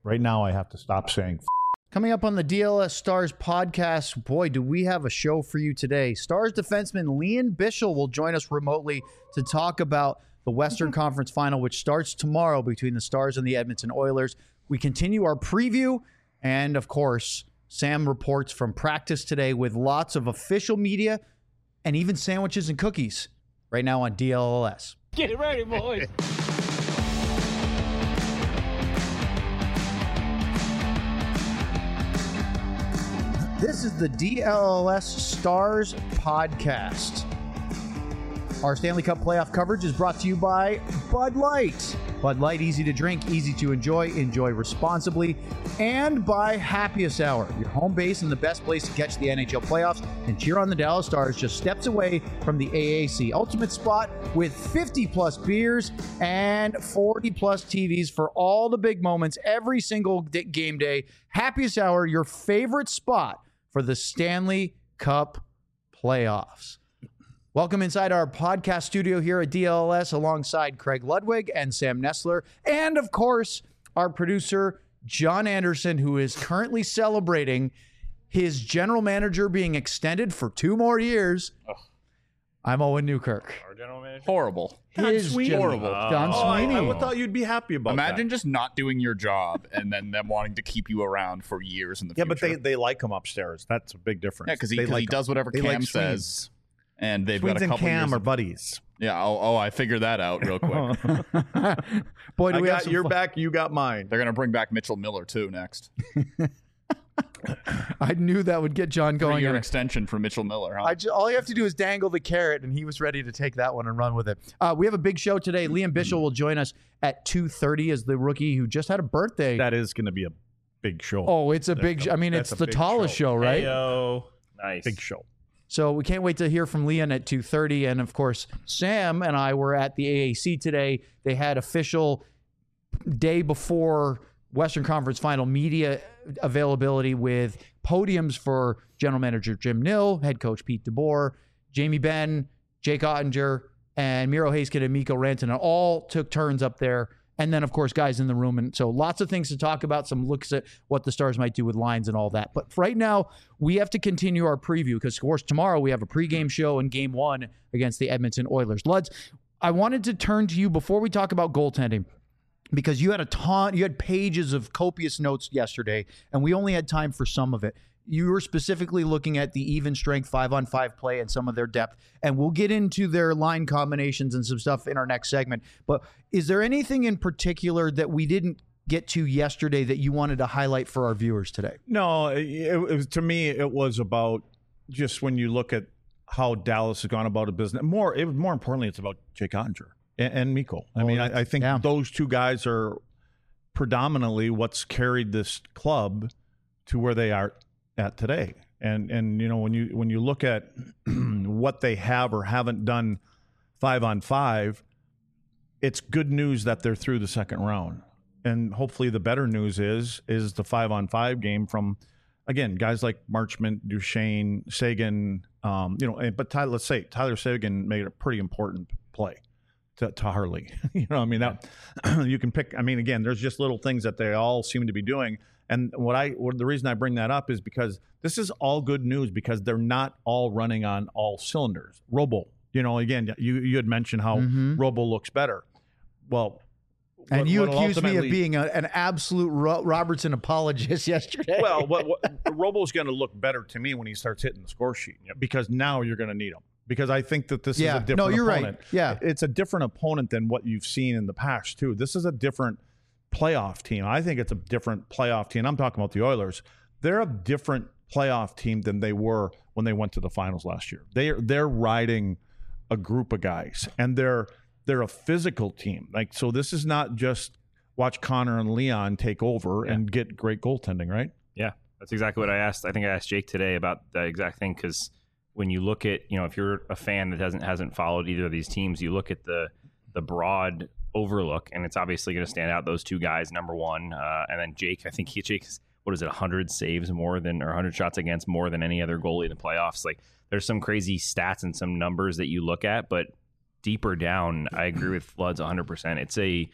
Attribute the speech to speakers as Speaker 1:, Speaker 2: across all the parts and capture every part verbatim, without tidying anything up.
Speaker 1: Right now, I have to stop saying f-
Speaker 2: Coming up on the D L S Stars podcast, boy, do we have a show for you today. Stars defenseman Lian Bichsel will join us remotely to talk about the Western Conference Final, which starts tomorrow between the Stars and the Edmonton Oilers. We continue our preview, and of course, Sam reports from practice today with lots of official media and even sandwiches and cookies right now on D L S.
Speaker 3: Get ready, boys.
Speaker 2: This is the D L S Stars podcast. Our Stanley Cup playoff coverage is brought to you by Bud Light. Bud Light, easy to drink, easy to enjoy, enjoy responsibly. And by Happiest Hour, your home base and the best place to catch the N H L playoffs and cheer on the Dallas Stars, just steps away from the A A C. Ultimate spot with fifty plus beers and forty plus T Vs for all the big moments every single d- game day. Happiest Hour, your favorite spot for the Stanley Cup playoffs. Welcome inside our podcast studio here at D L S alongside Craig Ludwig and Sam Nestler. And of course, our producer, John Anderson, who is currently celebrating his general manager being extended for two more years. Ugh. I'm Owen Newkirk.
Speaker 4: Our general manager?
Speaker 5: Horrible.
Speaker 2: His
Speaker 1: Sweeney.
Speaker 2: horrible. Don
Speaker 1: Oh, I,
Speaker 2: Sweeney.
Speaker 1: I would thought you'd be happy about
Speaker 5: Imagine
Speaker 1: that.
Speaker 5: just not doing your job and then them wanting to keep you around for years in the
Speaker 1: Yeah,
Speaker 5: future.
Speaker 1: but they, they like him upstairs. That's a big difference.
Speaker 5: yeah, because he,
Speaker 1: They
Speaker 5: 'cause he
Speaker 1: like
Speaker 5: does whatever
Speaker 1: they
Speaker 5: Cam
Speaker 1: like Sweens.
Speaker 5: says, and they've
Speaker 1: Sweens
Speaker 5: got a
Speaker 1: and
Speaker 5: couple
Speaker 1: Cam
Speaker 5: years.
Speaker 1: are
Speaker 5: Of,
Speaker 1: buddies.
Speaker 5: yeah, oh, oh, I figured that out real quick.
Speaker 2: Boy, do
Speaker 1: I
Speaker 2: we have
Speaker 1: got
Speaker 2: some
Speaker 1: your
Speaker 2: fun.
Speaker 1: back, you got mine.
Speaker 5: They're gonna bring back Mitchell Miller too next.
Speaker 2: I knew that would get John going.
Speaker 5: Three-year
Speaker 2: in a-
Speaker 5: extension for Mitchell Miller. Huh?
Speaker 2: I ju- all you have to do is dangle the carrot, and he was ready to take that one and run with it. Uh, we have a big show today. Lian Bichsel will join us at two thirty as the rookie who just had a birthday.
Speaker 1: That is going to be a big show.
Speaker 2: oh, it's a
Speaker 1: That's
Speaker 2: big.
Speaker 1: a-
Speaker 2: I mean,
Speaker 1: that's
Speaker 2: it's
Speaker 1: a
Speaker 2: the
Speaker 1: big
Speaker 2: tallest show, right?
Speaker 4: Heyo. Nice.
Speaker 1: Big show.
Speaker 2: So we can't wait to hear from Lian at two thirty. And of course, Sam and I were at the A A C today. They had official day before Western Conference Final media availability with podiums for general manager Jim Nill, head coach Pete DeBoer, Jamie Benn, Jake Ottinger, and Miro Heiskanen and Mikko Rantanen all took turns up there. And then, of course, guys in the room. And so lots of things to talk about, some looks at what the Stars might do with lines and all that. But right now, we have to continue our preview because, of course, tomorrow we have a pregame show in game one against the Edmonton Oilers. Luds, I wanted to turn to you before we talk about goaltending because you had a ton, you had pages of copious notes yesterday, and we only had time for some of it. You were specifically looking at the even strength five-on-five play and some of their depth, and we'll get into their line combinations and some stuff in our next segment. But is there anything in particular that we didn't get to yesterday that you wanted to highlight for our viewers today?
Speaker 1: No, it, it was, to me, it was about just when you look at how Dallas has gone about a business. More, it, more importantly, it's about Jake Ottinger and, and Mikko. I
Speaker 2: Oh,
Speaker 1: mean, I, I think
Speaker 2: yeah.
Speaker 1: those two guys are predominantly what's carried this club to where they are at today. And and you know when you when you look at what they have or haven't done five on five, it's good news that they're through the second round. And hopefully the better news is is the five on five game from, again, guys like Marchment, Duchesne, Sagan, um, you know, but Tyler, let's say Tyler Sagan made a pretty important play to, to Harley. you know, I mean, that you can pick. I mean, again, there's just little things that they all seem to be doing. And what I, what, the reason I bring that up is because this is all good news because they're not all running on all cylinders. Robo, you know, again, you you had mentioned how
Speaker 2: Mhm.
Speaker 1: Robo looks better. Well,
Speaker 2: And
Speaker 1: what-
Speaker 2: you
Speaker 1: what'll
Speaker 2: accused me of
Speaker 1: ultimately-
Speaker 2: being a, an absolute Ro- Robertson apologist yesterday.
Speaker 1: well, what, what, Robo's going to look better to me when he starts hitting the score sheet because now you're going to need him. Because I think that this
Speaker 2: Yeah.
Speaker 1: is a different
Speaker 2: No, you're right.
Speaker 1: opponent.
Speaker 2: Yeah.
Speaker 1: It's a different opponent than what you've seen in the past, too. This is a different playoff team. I think it's a different playoff team. I'm talking about the Oilers. They're a different playoff team than they were when they went to the finals last year. They're they're riding a group of guys, and they're they're a physical team. Like so, this is not just watch Connor and Leon take over
Speaker 4: Yeah.
Speaker 1: and get great goaltending, right?
Speaker 4: Yeah, that's exactly what I asked. I think I asked Jake today about that exact thing because when you look at, you know, if you're a fan that hasn't hasn't followed either of these teams, you look at the the broad overlook, and it's obviously going to stand out those two guys, number one, uh, and then Jake. I think he Jake's what is it, one hundred saves more than or one hundred shots against more than any other goalie in the playoffs. Like there's some crazy stats and some numbers that you look at, but deeper down, I agree with Floods one hundred percent. It's a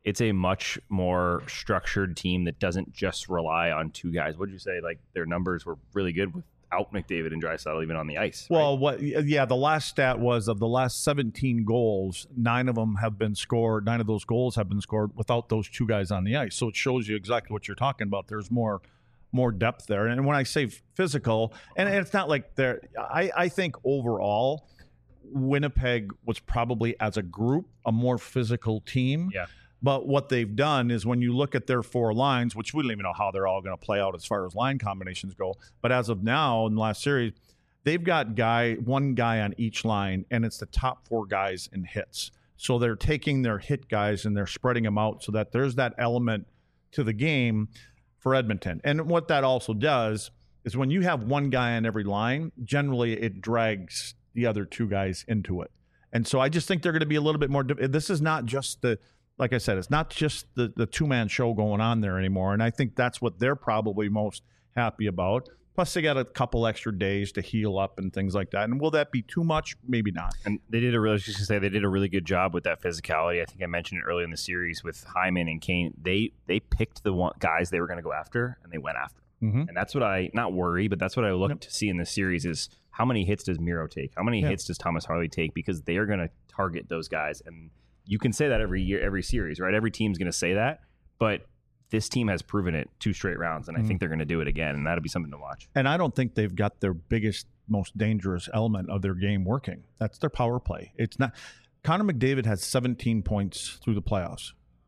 Speaker 4: it's a much more structured team that doesn't just rely on two guys. What did you say? Like their numbers were really good without McDavid and Draisaitl even on the ice. Right?
Speaker 1: Well, what? Yeah, the last stat was of the last seventeen goals, nine of them have been scored. Nine of those goals have been scored without those two guys on the ice. So it shows you exactly what you're talking about. There's more, more depth there. And when I say physical, and it's not like they're. I, I think overall, Winnipeg was probably as a group a more physical team.
Speaker 4: Yeah.
Speaker 1: But what they've done is when you look at their four lines, which we don't even know how they're all going to play out as far as line combinations go. But as of now, in the last series, they've got guy one guy on each line, and it's the top four guys in hits. So they're taking their hit guys and they're spreading them out so that there's that element to the game for Edmonton. And what that also does is when you have one guy on every line, generally it drags the other two guys into it. And so I just think they're going to be a little bit more. This is not just the. Like I said, it's not just the, the two-man show going on there anymore, and I think that's what they're probably most happy about. Plus, they got a couple extra days to heal up and things like that. And will that be too much? Maybe not.
Speaker 4: And they did a really, just to say, they did a really good job with that physicality. I think I mentioned it earlier in the series with Hyman and Kane. They they picked the one, guys they were going to go after, and they went after them.
Speaker 1: Mm-hmm.
Speaker 4: And that's what I, not worry, but that's what I look
Speaker 1: Yep.
Speaker 4: to see in this series is how many hits does Miro take? How many
Speaker 1: Yeah.
Speaker 4: hits does Thomas Harley take? Because they are going to target those guys. And you can say that every year, every series, right? Every team's going to say that, but this team has proven it two straight rounds, and I
Speaker 1: Mm.
Speaker 4: think they're going to do it again, and that'll be something to watch.
Speaker 1: And I don't think they've got their biggest, most dangerous element of their game working. That's their power play. It's not. Connor McDavid has seventeen points through the playoffs.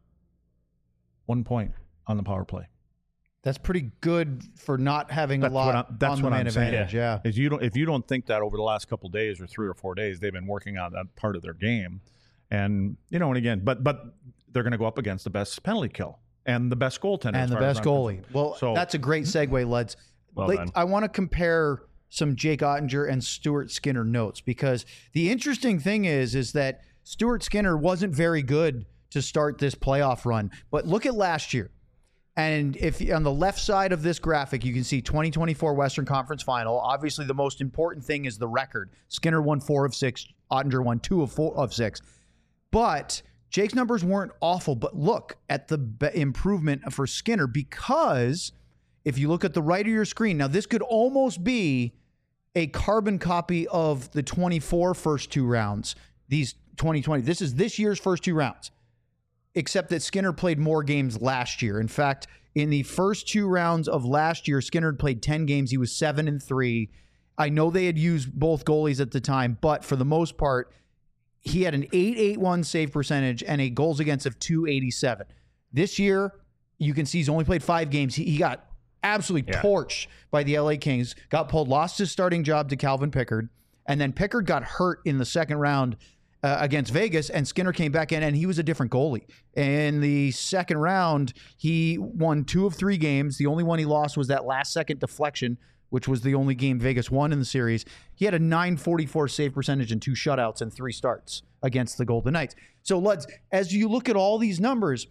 Speaker 1: One point on the power play.
Speaker 2: That's pretty good for not having
Speaker 1: That's
Speaker 2: a
Speaker 1: what
Speaker 2: lot
Speaker 1: I'm- that's
Speaker 2: on the
Speaker 1: what
Speaker 2: man
Speaker 1: I'm saying.
Speaker 2: advantage. Yeah.
Speaker 1: If you don't, if you don't think that over the last couple of days or three or four days, they've been working on that part of their game, and you know, and again, but but they're going to go up against the best penalty kill and the best goaltender
Speaker 2: And
Speaker 1: as
Speaker 2: the
Speaker 1: far as
Speaker 2: best
Speaker 1: I'm
Speaker 2: goalie.
Speaker 1: concerned.
Speaker 2: Well,
Speaker 1: So-
Speaker 2: that's a great segue, Leds.
Speaker 4: Well
Speaker 2: Like,
Speaker 4: done.
Speaker 2: I want to compare some Jake Ottinger and Stuart Skinner notes because the interesting thing is, is that Stuart Skinner wasn't very good to start this playoff run. But look at last year. And if on the left side of this graphic, you can see twenty twenty-four Western Conference Final. Obviously, the most important thing is the record. Skinner won four of six. Ottinger won two of four of six. But Jake's numbers weren't awful. But look at the be- improvement for Skinner because if you look at the right of your screen, now this could almost be a carbon copy of the twenty-four first two rounds. These twenty twenty. This is this year's first two rounds. Except that Skinner played more games last year. In fact, in the first two rounds of last year, Skinner had played ten games. He was seven and three. I know they had used both goalies at the time, but for the most part, he had an eight eighty-one save percentage and a goals against of two eighty-seven. This year, you can see he's only played five games. He, he got absolutely
Speaker 4: Yeah.
Speaker 2: torched by the L A Kings, got pulled, lost his starting job to Calvin Pickard, and then Pickard got hurt in the second round Uh, against Vegas, and Skinner came back in, and he was a different goalie. In the second round, he won two of three games. The only one he lost was that last second deflection, which was the only game Vegas won in the series. He had a nine forty-four save percentage and two shutouts and three starts against the Golden Knights. So, Luds, as you look at all these numbers,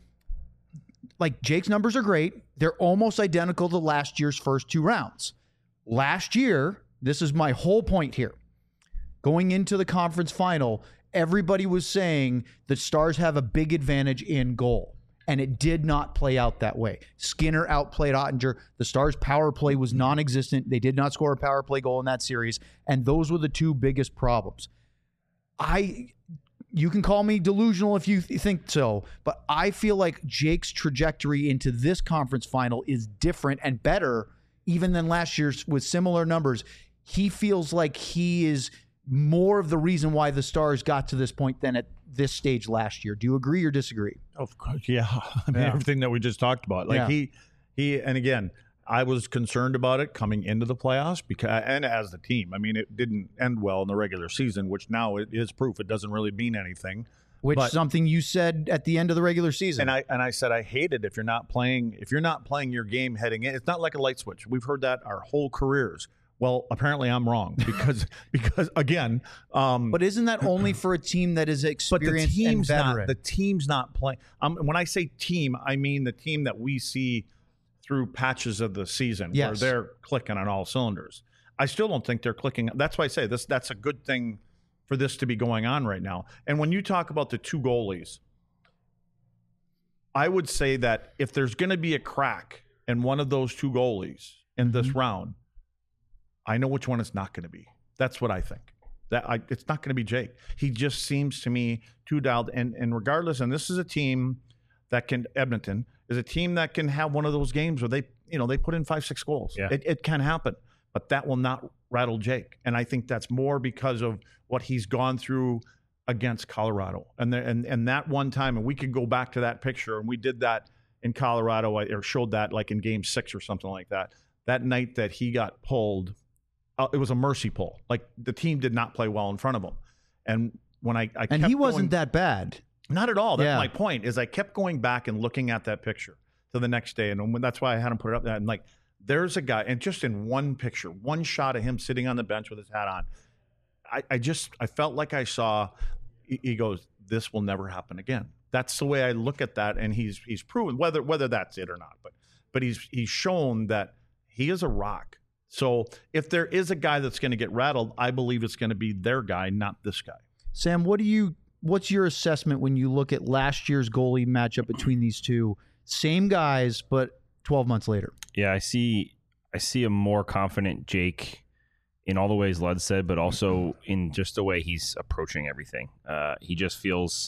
Speaker 2: like Jake's numbers are great. They're almost identical to last year's first two rounds. Last year, this is my whole point here. Going into the conference final, everybody was saying the Stars have a big advantage in goal, and it did not play out that way. Skinner outplayed Ottinger. The Stars' power play was non-existent. They did not score a power play goal in that series, and those were the two biggest problems. I, you can call me delusional if you th- think so, but I feel like Jake's trajectory into this conference final is different and better even than last year's with similar numbers. He feels like he is more of the reason why the Stars got to this point than at this stage last year. Do you agree or disagree?
Speaker 1: Of course, yeah. I mean,
Speaker 2: Yeah.
Speaker 1: everything that we just talked about. Like
Speaker 2: Yeah.
Speaker 1: he, he, and again, I was concerned about it coming into the playoffs because, and as the team, I mean, it didn't end well in the regular season, which now it is proof it doesn't really mean anything.
Speaker 2: Which
Speaker 1: But-
Speaker 2: something you said at the end of the regular season.
Speaker 1: And I and I said I hate it if you're not playing if you're not playing your game heading in. It's not like a light switch. We've heard that our whole careers. Well, apparently I'm wrong because because again, um,
Speaker 2: but isn't that only for a team that is
Speaker 1: but the
Speaker 2: experienced
Speaker 1: team's
Speaker 2: and
Speaker 1: not
Speaker 2: veteran?
Speaker 1: the team's not playing. Um, when I say team, I mean the team that we see through patches of the season
Speaker 2: Yes.
Speaker 1: where they're clicking on all cylinders. I still don't think they're clicking. That's why I say this. That's a good thing for this to be going on right now. And when you talk about the two goalies, I would say that if there's going to be a crack in one of those two goalies in this
Speaker 2: Mm-hmm.
Speaker 1: round, I know which one it's not going to be. That's what I think. That I, it's not going to be Jake. He just seems to me too dialed. And and regardless, and this is a team that can Edmonton is a team that can have one of those games where they you know they put in five six goals.
Speaker 4: Yeah.
Speaker 1: It, it can happen, but that will not rattle Jake. And I think that's more because of what he's gone through against Colorado. And there, and and that one time, and we could go back to that picture, and we did that in Colorado, or showed that like in Game Six or something like that. That night that he got pulled, uh, it was a mercy pull. Like the team did not play well in front of him. And when I, I
Speaker 3: And
Speaker 1: kept
Speaker 3: he wasn't
Speaker 1: going,
Speaker 3: that bad.
Speaker 1: not at all. That's
Speaker 3: Yeah.
Speaker 1: my point. Is I kept going back and looking at that picture to the next day, and when, that's why I had him put it up there. And like, there's a guy, and just in one picture, one shot of him sitting on the bench with his hat on, I, I just I felt like I saw. He, he goes, "This will never happen again." That's the way I look at that, and he's he's proven whether whether that's it or not. But but he's he's shown that he is a rock. So if there is a guy that's going to get rattled, I believe it's going to be their guy, not this guy.
Speaker 3: Sam, what do you? What's your assessment when you look at last year's goalie matchup between these two? Same guys, but twelve months later.
Speaker 4: Yeah, I see. I see a more confident Jake in all the ways Lud said, but also in just the way he's approaching everything. Uh, he just feels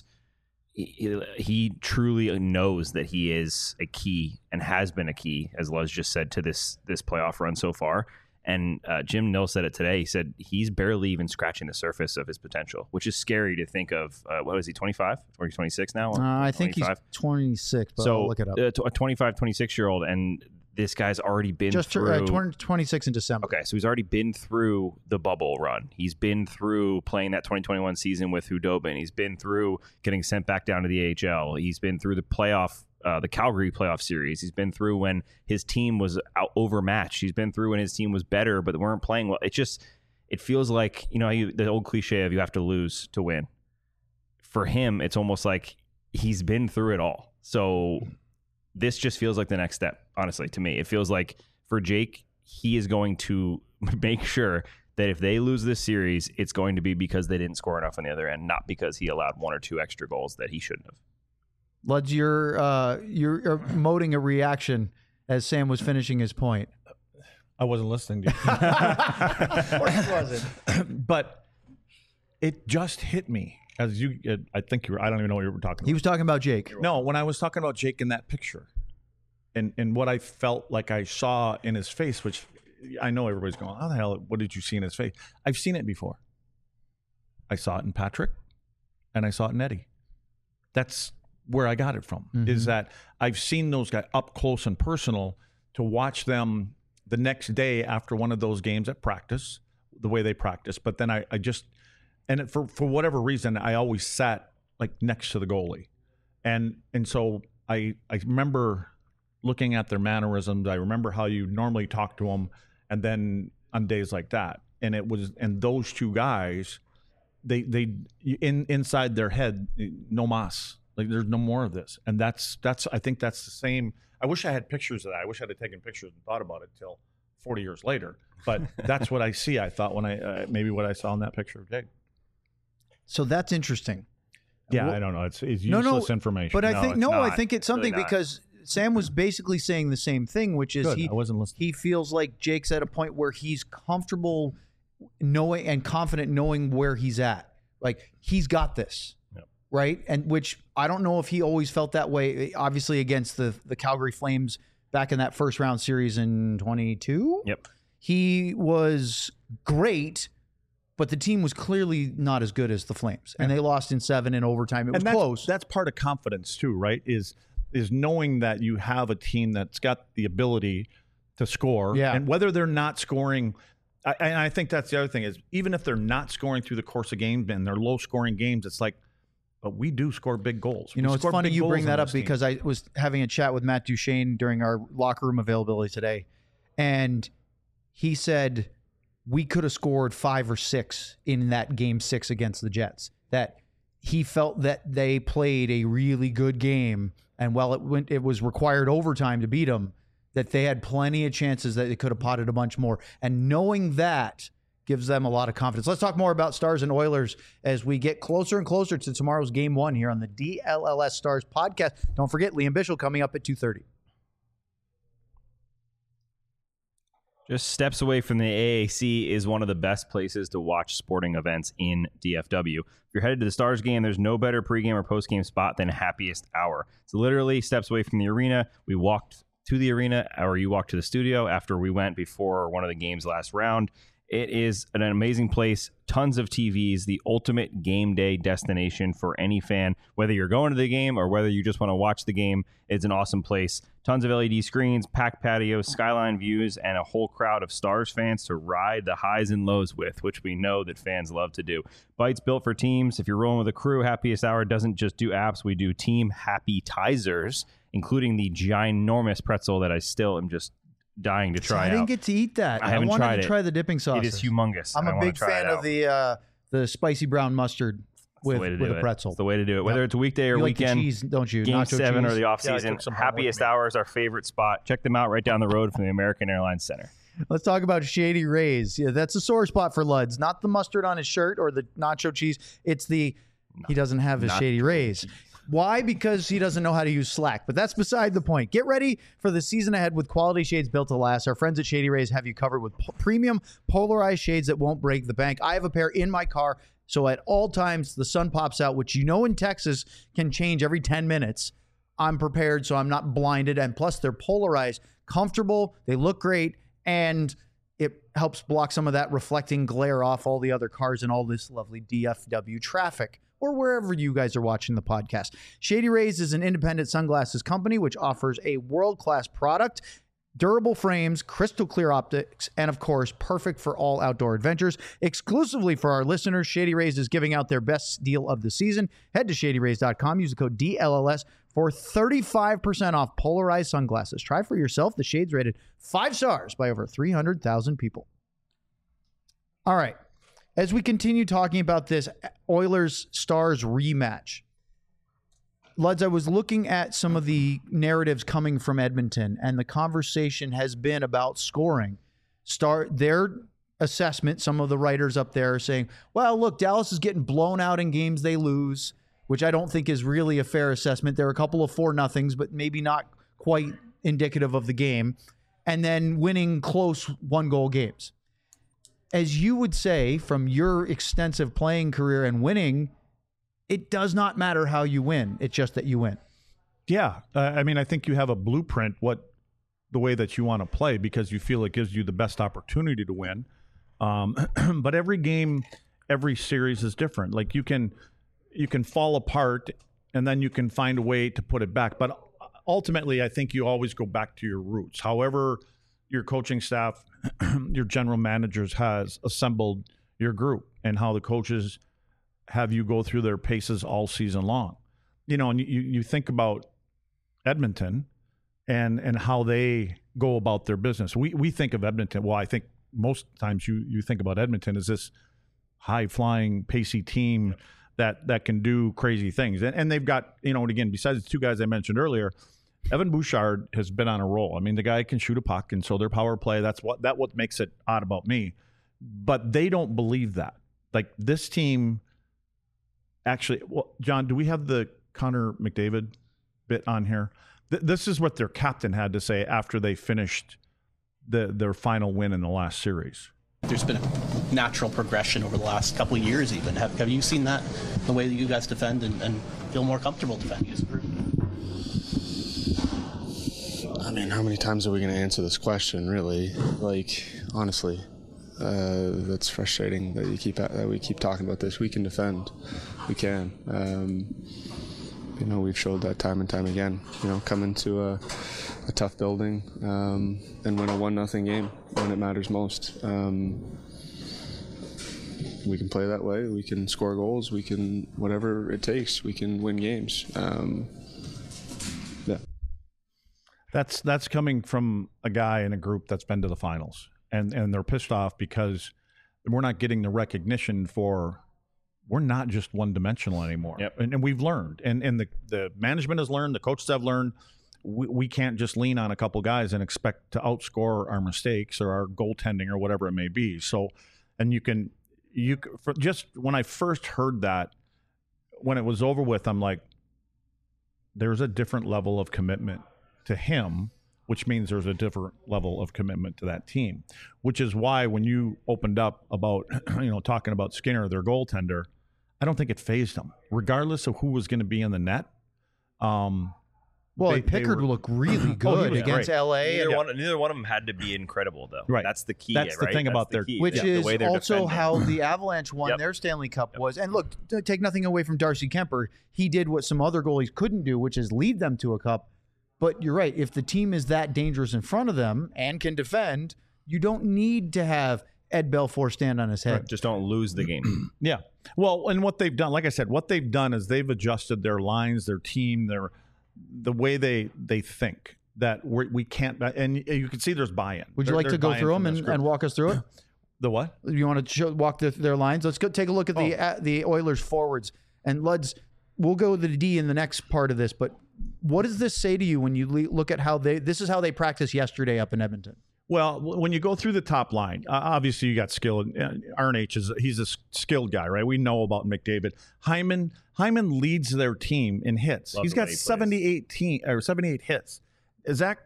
Speaker 4: he, he truly knows that he is a key and has been a key, as Luz just said, to this this playoff run so far. And uh, Jim Nill said it today. He said he's barely even scratching the surface of his potential, which is scary to think of. Uh, what is he, twenty-five? Or he's twenty-six now? Or
Speaker 3: Uh, I think
Speaker 4: twenty-five?
Speaker 3: he's twenty-six, but
Speaker 4: so
Speaker 3: I'll look it up.
Speaker 4: uh, a twenty-five, twenty-six-year-old, and this guy's already been
Speaker 3: Just
Speaker 4: through...
Speaker 3: uh, twenty, twenty-six in December.
Speaker 4: Okay, so he's already been through the bubble run. He's been through playing that twenty twenty-one season with Hudobin. He's been through getting sent back down to the A H L. He's been through the playoff, uh, the Calgary playoff series. He's been through when his team was out overmatched. He's been through when his team was better, but they weren't playing well. It just, it feels like, you know, you, the old cliche of you have to lose to win. For him, it's almost like he's been through it all. So this just feels like the next step, honestly, to me. It feels like for Jake, he is going to make sure that if they lose this series, it's going to be because they didn't score enough on the other end, not because he allowed one or two extra goals that he shouldn't have.
Speaker 3: Luds, you're, uh, you're you're emoting a reaction as Sam was finishing his point.
Speaker 1: I wasn't listening to you.
Speaker 3: Of course he wasn't.
Speaker 1: But it just hit me as you. uh, I think you were. I don't even know what you were talking about.
Speaker 3: He was talking about Jake.
Speaker 1: No, when I was talking about Jake in that picture, and and what I felt like I saw in his face, which I know everybody's going, "How the hell? What did you see in his face?" I've seen it before. I saw it in Patrick, and I saw it in Eddie. That's where I got it from.
Speaker 3: Mhm.
Speaker 1: Is that I've seen those guys up close and personal to watch them the next day after one of those games at practice, the way they practice. But then I, I just, and it, for for whatever reason, I always sat like next to the goalie, and and so I I remember looking at their mannerisms. I remember how you normally talk to them, and then on days like that, and it was and those two guys, they they in inside their head, no mas. Like there's no more of this, and that's that's I think that's the same. I wish I had pictures of that. I wish I'd have taken pictures and thought about it till forty years later. But that's what I see. I thought when I uh, maybe what I saw in that picture of Jake.
Speaker 3: So that's interesting.
Speaker 1: Yeah,
Speaker 3: Well-
Speaker 1: I don't know. It's it's
Speaker 3: No,
Speaker 1: useless
Speaker 3: no,
Speaker 1: information.
Speaker 3: But I
Speaker 1: No,
Speaker 3: think
Speaker 1: it's
Speaker 3: no, I
Speaker 1: not.
Speaker 3: think it's something
Speaker 4: really not.
Speaker 3: because Sam was basically saying the same thing, which is
Speaker 1: Good.
Speaker 3: he
Speaker 1: I wasn't listening.
Speaker 3: he feels like Jake's at a point where he's comfortable knowing and confident knowing where he's at. Like he's got this.
Speaker 4: Yep.
Speaker 3: Right? And which I don't know if he always felt that way, obviously against the the Calgary Flames back in that first round series in twenty-two.
Speaker 4: Yep.
Speaker 3: He was great, but the team was clearly not as good as the Flames. And they lost in seven in overtime. It was
Speaker 1: and that's,
Speaker 3: close.
Speaker 1: That's part of confidence too, right? Is is knowing that you have a team that's got the ability to score,
Speaker 3: Yeah.
Speaker 1: and whether they're not scoring. I, and I think that's the other thing is even if they're not scoring through the course of games and they're low scoring games, it's like, but we do score big goals.
Speaker 3: You
Speaker 1: We
Speaker 3: know, it's
Speaker 1: score
Speaker 3: funny
Speaker 1: big
Speaker 3: you
Speaker 1: goals
Speaker 3: bring
Speaker 1: on
Speaker 3: that up
Speaker 1: this team.
Speaker 3: because I was having a chat with Matt Duchesne during our locker room availability today, and he said we could have scored five or six in that game six against the Jets. That he felt that they played a really good game, and while it went, it was required overtime to beat them, that they had plenty of chances that they could have potted a bunch more. And knowing that gives them a lot of confidence. Let's talk more about Stars and Oilers as we get closer and closer to tomorrow's game one here on the D L L S Stars podcast. Don't forget, Liam Bichel coming up at two thirty.
Speaker 4: Just steps away from the A A C is one of the best places to watch sporting events in D F W. If you're headed to the Stars game, there's no better pregame or postgame spot than Happiest Hour. It's literally steps away from the arena. We walked to the arena, or you walked to the studio after we went before one of the games last round. It is an amazing place. Tons of T Vs, the ultimate game day destination for any fan. Whether you're going to the game or whether you just want to watch the game, it's an awesome place. Tons of L E D screens, packed patios, skyline views, and a whole crowd of Stars fans to ride the highs and lows with, which we know that fans love to do. Bites built for teams. If you're rolling with a crew, Happiest Hour doesn't just do apps. We do team happy-tizers, including the ginormous pretzel that I still am just dying to try
Speaker 3: I didn't
Speaker 4: out.
Speaker 3: get to eat that.
Speaker 4: I haven't
Speaker 3: wanted
Speaker 4: tried
Speaker 3: to
Speaker 4: it.
Speaker 3: try the dipping sauce.
Speaker 4: It is humongous.
Speaker 3: I'm
Speaker 4: and I
Speaker 3: a
Speaker 4: wanna
Speaker 3: big
Speaker 4: try
Speaker 3: fan
Speaker 4: it
Speaker 3: of
Speaker 4: out.
Speaker 3: the uh, the spicy brown mustard with,
Speaker 4: the way to
Speaker 3: with
Speaker 4: do
Speaker 3: a
Speaker 4: it.
Speaker 3: pretzel.
Speaker 4: It's the way to do it. Whether
Speaker 3: Yep.
Speaker 4: it's a weekday or
Speaker 3: You like the
Speaker 4: weekend,
Speaker 3: cheese, don't you?
Speaker 4: game
Speaker 3: Nacho
Speaker 4: seven
Speaker 3: cheese?
Speaker 4: or the off
Speaker 1: Yeah, I
Speaker 4: season,
Speaker 1: took some home with
Speaker 4: Happiest
Speaker 1: me.
Speaker 4: Hour is our favorite spot. Check them out right down the road from the American Airlines Center.
Speaker 3: Let's talk about Shady Rays. Yeah, that's a sore spot for Luds. Not the mustard on his shirt or the nacho cheese. It's the he doesn't have his
Speaker 4: Not-
Speaker 3: Shady Rays. Why? Because he doesn't know how to use Slack. But that's beside the point. Get ready for the season ahead with quality shades built to last. Our friends at Shady Rays have you covered with po- premium polarized shades that won't break the bank. I have a pair in my car, so at all times the sun pops out, which you know in Texas can change every ten minutes. I'm prepared, so I'm not blinded. And plus, they're polarized, comfortable, they look great, and it helps block some of that reflecting glare off all the other cars and all this lovely D F W traffic, or wherever you guys are watching the podcast. Shady Rays is an independent sunglasses company which offers a world-class product, durable frames, crystal clear optics, and of course, perfect for all outdoor adventures. Exclusively for our listeners, Shady Rays is giving out their best deal of the season. Head to shady rays dot com, use the code D L L S for thirty-five percent off polarized sunglasses. Try for yourself. The shades rated five stars by over three hundred thousand people. All right. As we continue talking about this Oilers-Stars rematch, Luds, I was looking at some of the narratives coming from Edmonton, and the conversation has been about scoring. Star their assessment, some of the writers up there are saying, well, look, Dallas is getting blown out in games they lose, which I don't think is really a fair assessment. There are a couple of four nothings, but maybe not quite indicative of the game, and then winning close one-goal games. As you would say, from your extensive playing career and winning, it does not matter how you win. It's just that you win.
Speaker 1: Yeah, uh, I mean, I think you have a blueprint what the way that you want to play because you feel it gives you the best opportunity to win. Um, but every game, every series is different. Like you can you can fall apart and then you can find a way to put it back. But ultimately, I think you always go back to your roots. However, your coaching staff, your general managers has assembled your group and how the coaches have you go through their paces all season long. You know, and you, you think about Edmonton and and how they go about their business. We we think of Edmonton, well, I think most times you you think about Edmonton as this high-flying, pacey team that that can do crazy things. And, and they've got, you know, and again, besides the two guys I mentioned earlier, Evan Bouchard has been on a roll. I mean, the guy can shoot a puck, and so their power play, that's what that what makes it odd about me. But they don't believe that. Like this team actually, well, John, do we have the Connor McDavid bit on here? Th- this is what their captain had to say after they finished the their final win in the last series.
Speaker 6: There's been a natural progression over the last couple of years even. Have, have you seen that, the way that you guys defend and, and feel more comfortable defending as a group?
Speaker 7: I mean, how many times are we going to answer this question, really? Like, honestly, uh, that's frustrating that you keep that we keep talking about this. We can defend. We can. Um, you know, we've showed that time and time again. You know, come into a, a tough building um, and win a one nothing game when it matters most. Um, we can play that way. We can score goals. We can, whatever it takes, we can win games. Um, yeah.
Speaker 1: That's that's coming from a guy in a group that's been to the finals, and and they're pissed off because we're not getting the recognition for we're not just one dimensional anymore.
Speaker 4: Yep.
Speaker 1: And, and we've learned, and and the the management has learned, the coaches have learned. We, we can't just lean on a couple guys and expect to outscore our mistakes or our goaltending or whatever it may be. So, and you can you c- for just when I first heard that, when it was over with, I'm like, there's a different level of commitment to him, which means there's a different level of commitment to that team, which is why when you opened up about, you know, talking about Skinner, their goaltender, I don't think it fazed him, regardless of who was going to be in the net. Um,
Speaker 3: Well,
Speaker 1: they-
Speaker 3: and Pickard
Speaker 1: they were-
Speaker 3: looked really
Speaker 1: Oh,
Speaker 3: good
Speaker 1: he was
Speaker 3: against
Speaker 1: great.
Speaker 3: L A.
Speaker 8: Neither
Speaker 3: and-
Speaker 8: one, neither one of them had to be incredible, though.
Speaker 1: Right.
Speaker 8: That's the key.
Speaker 1: That's the
Speaker 8: right?
Speaker 1: thing
Speaker 8: That's
Speaker 1: about
Speaker 8: the
Speaker 1: their-
Speaker 8: key,
Speaker 3: Which
Speaker 8: yeah, the
Speaker 3: is
Speaker 8: way they're
Speaker 3: also
Speaker 8: defending.
Speaker 3: how the Avalanche won
Speaker 8: Yep.
Speaker 3: their Stanley Cup was. And look, to take nothing away from Darcy Kemper, he did what some other goalies couldn't do, which is lead them to a cup. But you're right. If the team is that dangerous in front of them and can defend, you don't need to have Ed Belfour stand on his head.
Speaker 8: Just don't lose the game.
Speaker 1: Yeah. Well, and what they've done, like I said, what they've done is they've adjusted their lines, their team, their the way they they think that we're, we can't. And you can see there's buy-in.
Speaker 3: Would you
Speaker 1: There-
Speaker 3: like to
Speaker 1: there's
Speaker 3: go
Speaker 1: buy-in
Speaker 3: through them
Speaker 1: from this
Speaker 3: and,
Speaker 1: group.
Speaker 3: and walk us through it?
Speaker 1: The what?
Speaker 3: You want to show, walk the, their lines? Let's go take a look at the uh, the Oilers forwards. And let's we'll go with the D in the next part of this. But what does this say to you when you le- look at how they? This is how they practiced yesterday up in Edmonton.
Speaker 1: Well, w- when you go through the top line, uh, obviously you got skilled. Uh, Arnage is he's a s- skilled guy, right? We know about McDavid. Hyman Hyman leads their team in hits.
Speaker 8: Love
Speaker 1: he's
Speaker 8: the
Speaker 1: got
Speaker 8: way he plays.
Speaker 1: seventy-eight team, or seventy-eight hits. Zach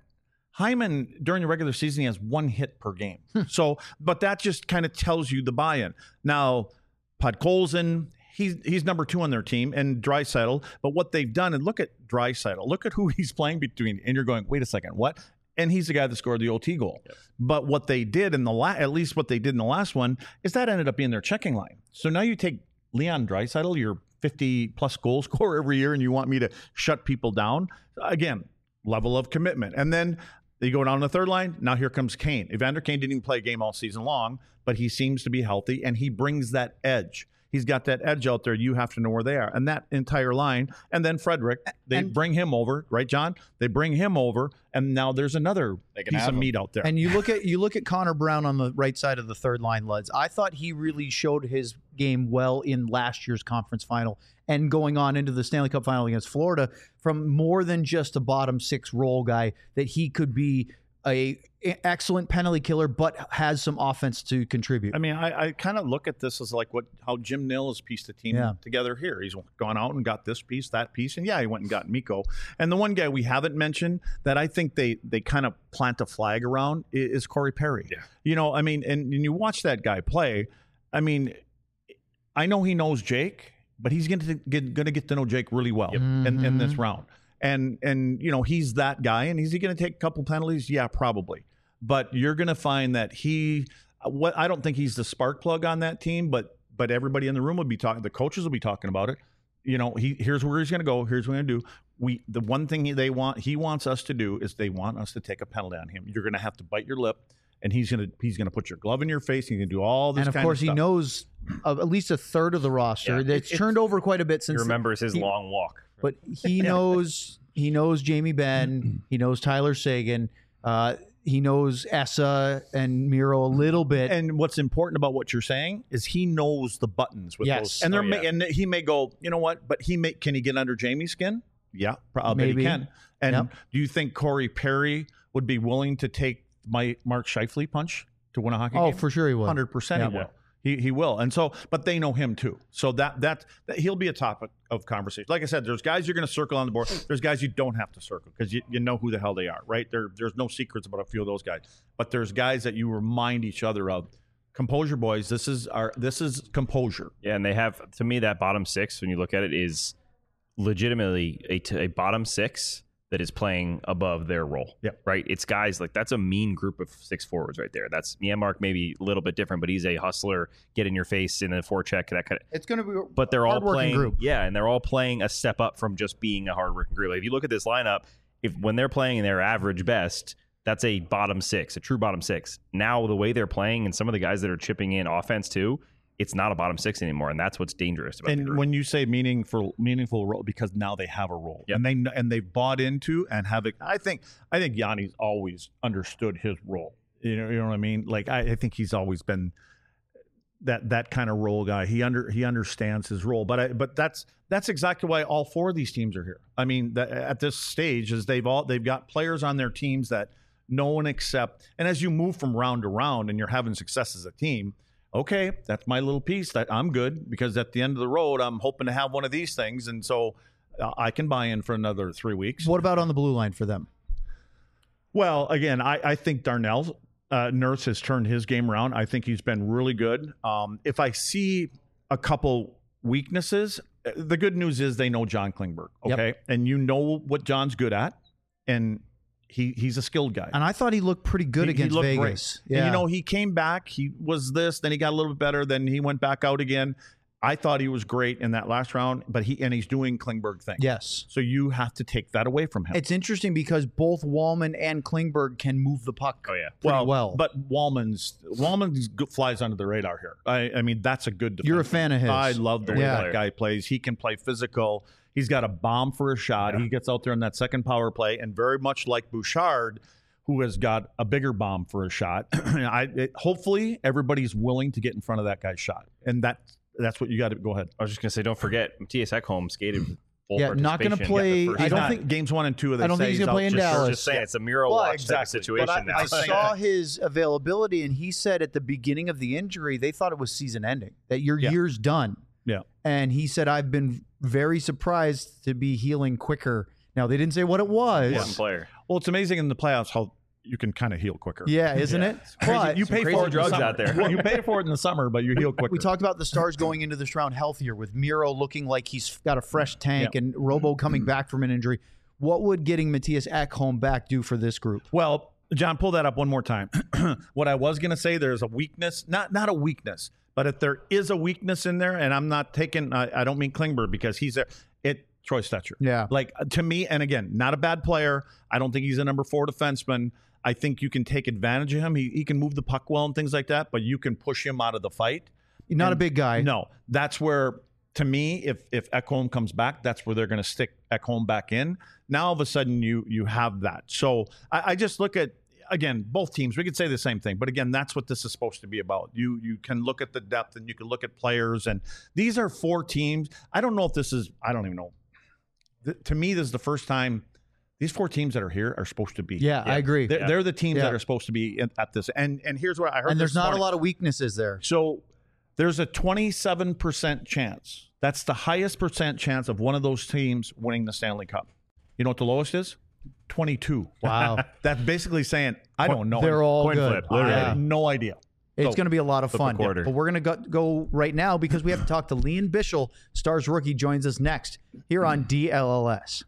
Speaker 1: Hyman during the regular season he has one hit per game. so, but that just kind of tells you the buy-in. Now, Podkolzin, he's he's number two on their team, and Draisaitl. But what they've done, and look at Draisaitl, look at who he's playing between, and you're going, wait a second, what? And he's the guy that scored the O T goal. Yep. But what they did in the la- at least what they did in the last one is that ended up being their checking line. So now you take Leon Draisaitl, your fifty plus goal scorer every year, and you want me to shut people down. Again, level of commitment. And then you go down the third line. Now here comes Kane. Evander Kane didn't even play a game all season long, but he seems to be healthy, and he brings that edge. He's got that edge out there. You have to know where they are. And that entire line. And then Frederick, they
Speaker 3: And-
Speaker 1: bring him over, right, John? They bring him over, and now there's another
Speaker 5: They can
Speaker 1: piece
Speaker 5: have
Speaker 1: of
Speaker 5: him.
Speaker 1: meat out there.
Speaker 3: And you look at you look at Connor Brown on the right side of the third line, Luds. I thought he really showed his game well in last year's conference final and going on into the Stanley Cup final against Florida from more than just a bottom six role guy, that he could be a excellent penalty killer, but has some offense to contribute.
Speaker 1: I mean, I, I kind of look at this as like what how Jim Nill has pieced the team
Speaker 3: Yeah.
Speaker 1: together here. He's gone out and got this piece, that piece, and yeah, he went and got Mikko. And the one guy we haven't mentioned that I think they they kind of plant a flag around i- is Corey Perry.
Speaker 8: Yeah.
Speaker 1: You know, I mean, and, and you watch that guy play. I mean, I know he knows Jake, but he's going to get going to get to know Jake really well in, in this round. And and you know, he's that guy. And is he going to take a couple penalties? Yeah, probably. But you're going to find that he, what I don't think he's the spark plug on that team, but but everybody in the room will be talking. The coaches will be talking about it. You know, he here's where he's going to go. Here's what we're going to do. We the one thing he, they want he wants us to do is they want us to take a penalty on him. You're going to have to bite your lip, and he's going to he's going to put your glove in your face. He's going to do all this.
Speaker 3: and of
Speaker 1: kind
Speaker 3: course,
Speaker 1: of
Speaker 3: he
Speaker 1: stuff.
Speaker 3: knows of at least a third of the roster.
Speaker 8: Yeah.
Speaker 3: That's
Speaker 8: It- it-
Speaker 3: turned over quite a bit since
Speaker 8: He remembers his
Speaker 3: he-
Speaker 8: long walk.
Speaker 3: but he knows he knows Jamie Benn, he knows Tyler Sagan, uh, he knows Essa and Miro a little bit.
Speaker 1: And what's important about what you're saying is he knows the buttons with
Speaker 3: Yes.
Speaker 1: those. And there
Speaker 8: Oh,
Speaker 1: may,
Speaker 8: yeah.
Speaker 1: and he may go, you know what? But he may can he get under Jamie's skin? Yeah, I bet
Speaker 3: Maybe.
Speaker 1: he can. And
Speaker 3: Yep.
Speaker 1: do you think Corey Perry would be willing to take my Mark Scheifele punch to win a hockey
Speaker 3: oh,
Speaker 1: game?
Speaker 3: for sure he will.
Speaker 1: Hundred percent, he
Speaker 3: Yeah.
Speaker 1: will. He he will. And so, but they know him too. So that that, that he'll be a topic of conversation. Like I said, there's guys you're going to circle on the board. There's guys you don't have to circle because you, you know who the hell they are, right? There there's no secrets about a few of those guys. But there's guys that you remind each other of. Composure, boys. This is our this is composure.
Speaker 8: Yeah, and they have, to me, that bottom six, when you look at it, is legitimately a, t- a bottom six that is playing above their role.
Speaker 1: Yep.
Speaker 8: Right? It's guys like, that's a mean group of six forwards right there. That's Janmark, maybe a little bit different, but he's a hustler, get in your face in a forecheck, that kind of.
Speaker 3: It's going to be
Speaker 8: But they're all
Speaker 3: hardworking
Speaker 8: playing,
Speaker 3: group.
Speaker 8: yeah, and they're all playing a step up from just being a hardworking group. Like, if you look at this lineup, if when they're playing their average best, that's a bottom six, a true bottom six. Now, the way they're playing and some of the guys that are chipping in offense too, it's not a bottom six anymore, and that's what's dangerous about the
Speaker 1: And
Speaker 8: group.
Speaker 1: when you say meaningful, meaningful role, because now they have a role,
Speaker 8: Yep.
Speaker 1: and they kn- and they've bought into and have it. I think I think Yanni's always understood his role. You know, you know what I mean. Like I, I think he's always been that that kind of role guy. He under he understands his role. But I, but that's that's exactly why all four of these teams are here. I mean, that, at this stage, is they've all they've got players on their teams that no one except. And as you move from round to round, and you're having success as a team. okay, that's my little piece. That I'm good because at the end of the road, I'm hoping to have one of these things, and so uh, I can buy in for another three weeks.
Speaker 3: What about on the blue line for them?
Speaker 1: Well, again, I, I think Darnell uh, Nurse has turned his game around. I think he's been really good. Um, if I see a couple weaknesses, the good news is they know John Klingberg, okay?
Speaker 3: Yep.
Speaker 1: And you know what John's good at, and he he's a skilled guy.
Speaker 3: And I thought he looked pretty good
Speaker 1: He- he
Speaker 3: against
Speaker 1: looked
Speaker 3: Vegas.
Speaker 1: great. And, you know, he came back. He was this. Then he got a little bit better. Then he went back out again. I thought he was great in that last round, but he and he's doing Klingberg things.
Speaker 3: Yes.
Speaker 1: So you have to take that away from him.
Speaker 3: It's interesting because both Wallman and Klingberg can move the puck
Speaker 8: Oh yeah.
Speaker 3: pretty well.
Speaker 1: But Wallman's Wallman's go- flies under the radar here. I, I mean, that's a good defenseman.
Speaker 3: You're a fan of his.
Speaker 1: I love the way
Speaker 3: Yeah.
Speaker 1: that guy plays. He can play physical. He's got a bomb for a shot. He gets out there in that second power play, and very much like Bouchard, who has got a bigger bomb for a shot. I it, hopefully everybody's willing to get in front of that guy's shot, and that that's what you got to go ahead.
Speaker 8: I was just gonna say, don't forget, Matthias Ekholm skated. Full
Speaker 3: Yeah, not gonna
Speaker 8: participation.
Speaker 3: play-
Speaker 8: Got the
Speaker 3: I
Speaker 8: first
Speaker 3: don't
Speaker 8: time.
Speaker 3: think-
Speaker 1: games one and two. They
Speaker 3: I don't
Speaker 1: say
Speaker 3: think he's gonna
Speaker 1: out
Speaker 3: play in
Speaker 1: just-
Speaker 3: Dallas.
Speaker 8: Just saying, it's a mirror
Speaker 1: Well,
Speaker 8: watch type of
Speaker 1: exactly.
Speaker 8: situation
Speaker 1: But I-
Speaker 8: now.
Speaker 1: I
Speaker 3: I
Speaker 1: saying
Speaker 3: saw his availability, and he said at the beginning of the injury, they thought it was season ending, that your
Speaker 1: Yeah.
Speaker 3: year's done.
Speaker 1: Yeah.
Speaker 3: And he said, I've been very surprised to be healing quicker. Now, they didn't say what it was.
Speaker 8: One player.
Speaker 1: Well, it's amazing in the playoffs how you can kind of heal quicker.
Speaker 3: Yeah, isn't it?
Speaker 1: Crazy.
Speaker 3: But
Speaker 1: you pay
Speaker 8: crazy
Speaker 1: for it in the
Speaker 8: drugs
Speaker 1: summer.
Speaker 8: out there.
Speaker 1: Well, you pay for it in the summer, but you heal quicker.
Speaker 3: we talked about the Stars going into this round healthier with Miro looking like he's got a fresh tank
Speaker 1: Yeah.
Speaker 3: and Robo coming back from an injury. What would getting Matthias Ekholm back do for this group?
Speaker 1: Well, John, pull that up one more time. What I was going to say, there's a weakness, not not a weakness, but if there is a weakness in there, and I'm not taking, I, I don't mean Klingberg because he's there. It Troy Stetcher.
Speaker 3: Yeah.
Speaker 1: Like to me, and again, not a bad player. I don't think he's a number four defenseman. I think you can take advantage of him. He he can move the puck well and things like that, but you can push him out of the fight.
Speaker 3: Not a
Speaker 1: And-
Speaker 3: big guy.
Speaker 1: No, that's where, to me, if if Ekholm comes back, that's where they're going to stick Ekholm back in. Now all of a sudden you you have that. So I, I just look at, again, both teams. We could say the same thing, but again, that's what this is supposed to be about. You you can look at the depth and you can look at players, and these are four teams. I don't know if this is. I don't even know. Th- to me, this is the first time. These four teams that are here are supposed to be.
Speaker 3: Yeah, I agree.
Speaker 1: They're, they're the teams
Speaker 3: Yeah.
Speaker 1: that are supposed to be at, at this. And and here's what I heard.
Speaker 3: And there's
Speaker 1: this
Speaker 3: not
Speaker 1: morning.
Speaker 3: a lot of weaknesses there.
Speaker 1: So there's a twenty-seven percent chance. That's the highest percent chance of one of those teams winning the Stanley Cup. You know what the lowest is? twenty-two.
Speaker 3: Wow.
Speaker 1: That's basically saying, I don't know.
Speaker 3: They're all
Speaker 8: Coin
Speaker 3: good.
Speaker 8: flip,
Speaker 1: I
Speaker 8: literally.
Speaker 3: Yeah.
Speaker 1: have no idea.
Speaker 3: It's
Speaker 1: So,
Speaker 3: going to be a lot of
Speaker 8: flip a
Speaker 3: fun.
Speaker 8: quarter.
Speaker 3: But we're going to go, go right now because we have to talk to Leon Bischel, Stars rookie, joins us next here on D L L S.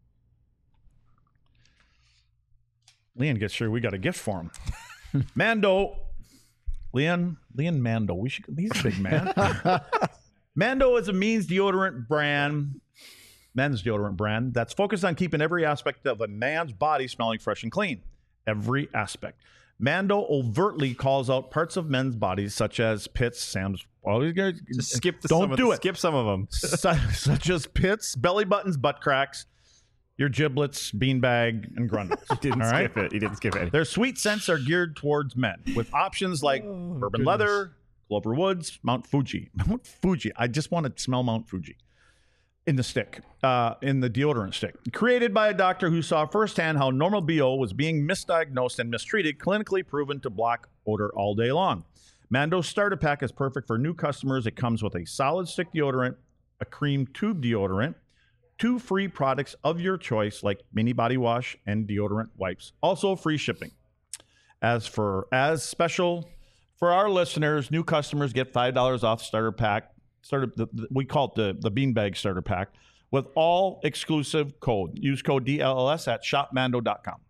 Speaker 1: Leon gets sure we got a gift for him. Mando. Leon, Leon Mando. We should, he's a big man. Mando is a men's deodorant brand, men's deodorant brand that's focused on keeping every aspect of a man's body smelling fresh and clean. Every aspect. Mando overtly calls out parts of men's bodies such as pits, Sam's. Always gonna
Speaker 8: Just skip the,
Speaker 1: Don't
Speaker 8: some of
Speaker 1: do
Speaker 8: the-
Speaker 1: it.
Speaker 8: Skip some of them.
Speaker 1: Su- such as pits, belly buttons, butt cracks, your giblets, beanbag, and grundles.
Speaker 8: He didn't
Speaker 1: All right?
Speaker 8: skip it. He didn't skip it.
Speaker 1: Their sweet scents are geared towards men with options like bourbon leather, Clover Woods, Mount Fuji. Mount Fuji. I just want to smell Mount Fuji in the stick, uh, in the deodorant stick. Created by a doctor who saw firsthand how normal B O was being misdiagnosed and mistreated, clinically proven to block odor all day long. Mando's starter pack is perfect for new customers. It comes with a solid stick deodorant, a cream tube deodorant, two free products of your choice like mini body wash and deodorant wipes. Also free shipping. As for as special for our listeners, new customers get five dollars off starter pack. Starter, the, the, we call it the, the beanbag starter pack with all exclusive code. Use code D L L S at shop mando dot com.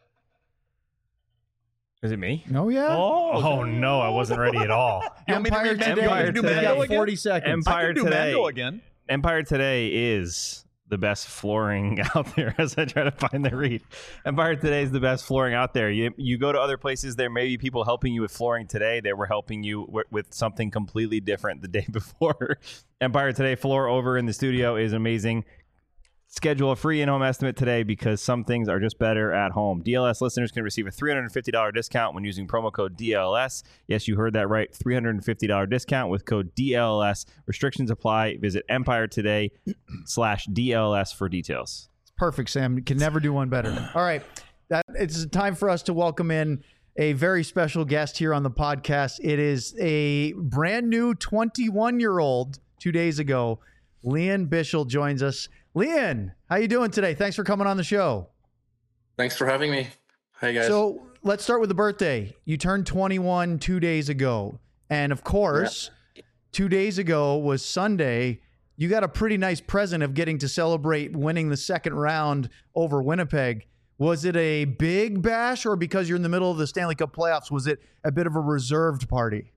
Speaker 8: Is it me?
Speaker 3: Oh, yeah.
Speaker 8: Oh no, I wasn't ready at all.
Speaker 1: You want me to
Speaker 3: Empire
Speaker 1: read Mando?
Speaker 3: Today.
Speaker 8: Empire
Speaker 1: You do
Speaker 8: Today.
Speaker 1: Mando
Speaker 3: got
Speaker 1: again?
Speaker 3: forty seconds.
Speaker 8: Empire
Speaker 1: I can do
Speaker 8: Today.
Speaker 1: Mando again.
Speaker 8: Empire Today is the best flooring out there. As I try to find the read, Empire Today is the best flooring out there. You you go to other places, there may be people helping you with flooring today. They were helping you w- with something completely different the day before. Empire Today floor over in the studio is amazing. Schedule a free in-home estimate today because some things are just better at home. D L S listeners can receive a three hundred fifty dollars discount when using promo code D L S. Yes, you heard that right. three hundred fifty dollars discount with code D L S. Restrictions apply. Visit Empire Today slash D L S for details.
Speaker 3: Perfect, Sam. You can never do one better. All right. That, it's time for us to welcome in a very special guest here on the podcast. It is a brand new twenty-one-year-old. Two days ago, Lian Bichsel joins us. Lian, how you doing today? Thanks for coming on the show.
Speaker 9: Thanks for having me. Hey, guys.
Speaker 3: So let's start with the birthday. You turned twenty-one two days ago. And of course, yeah. two days ago was Sunday. You got a pretty nice present of getting to celebrate winning the second round over Winnipeg. Was it a big bash, or because you're in the middle of the Stanley Cup playoffs, was it a bit of a reserved party?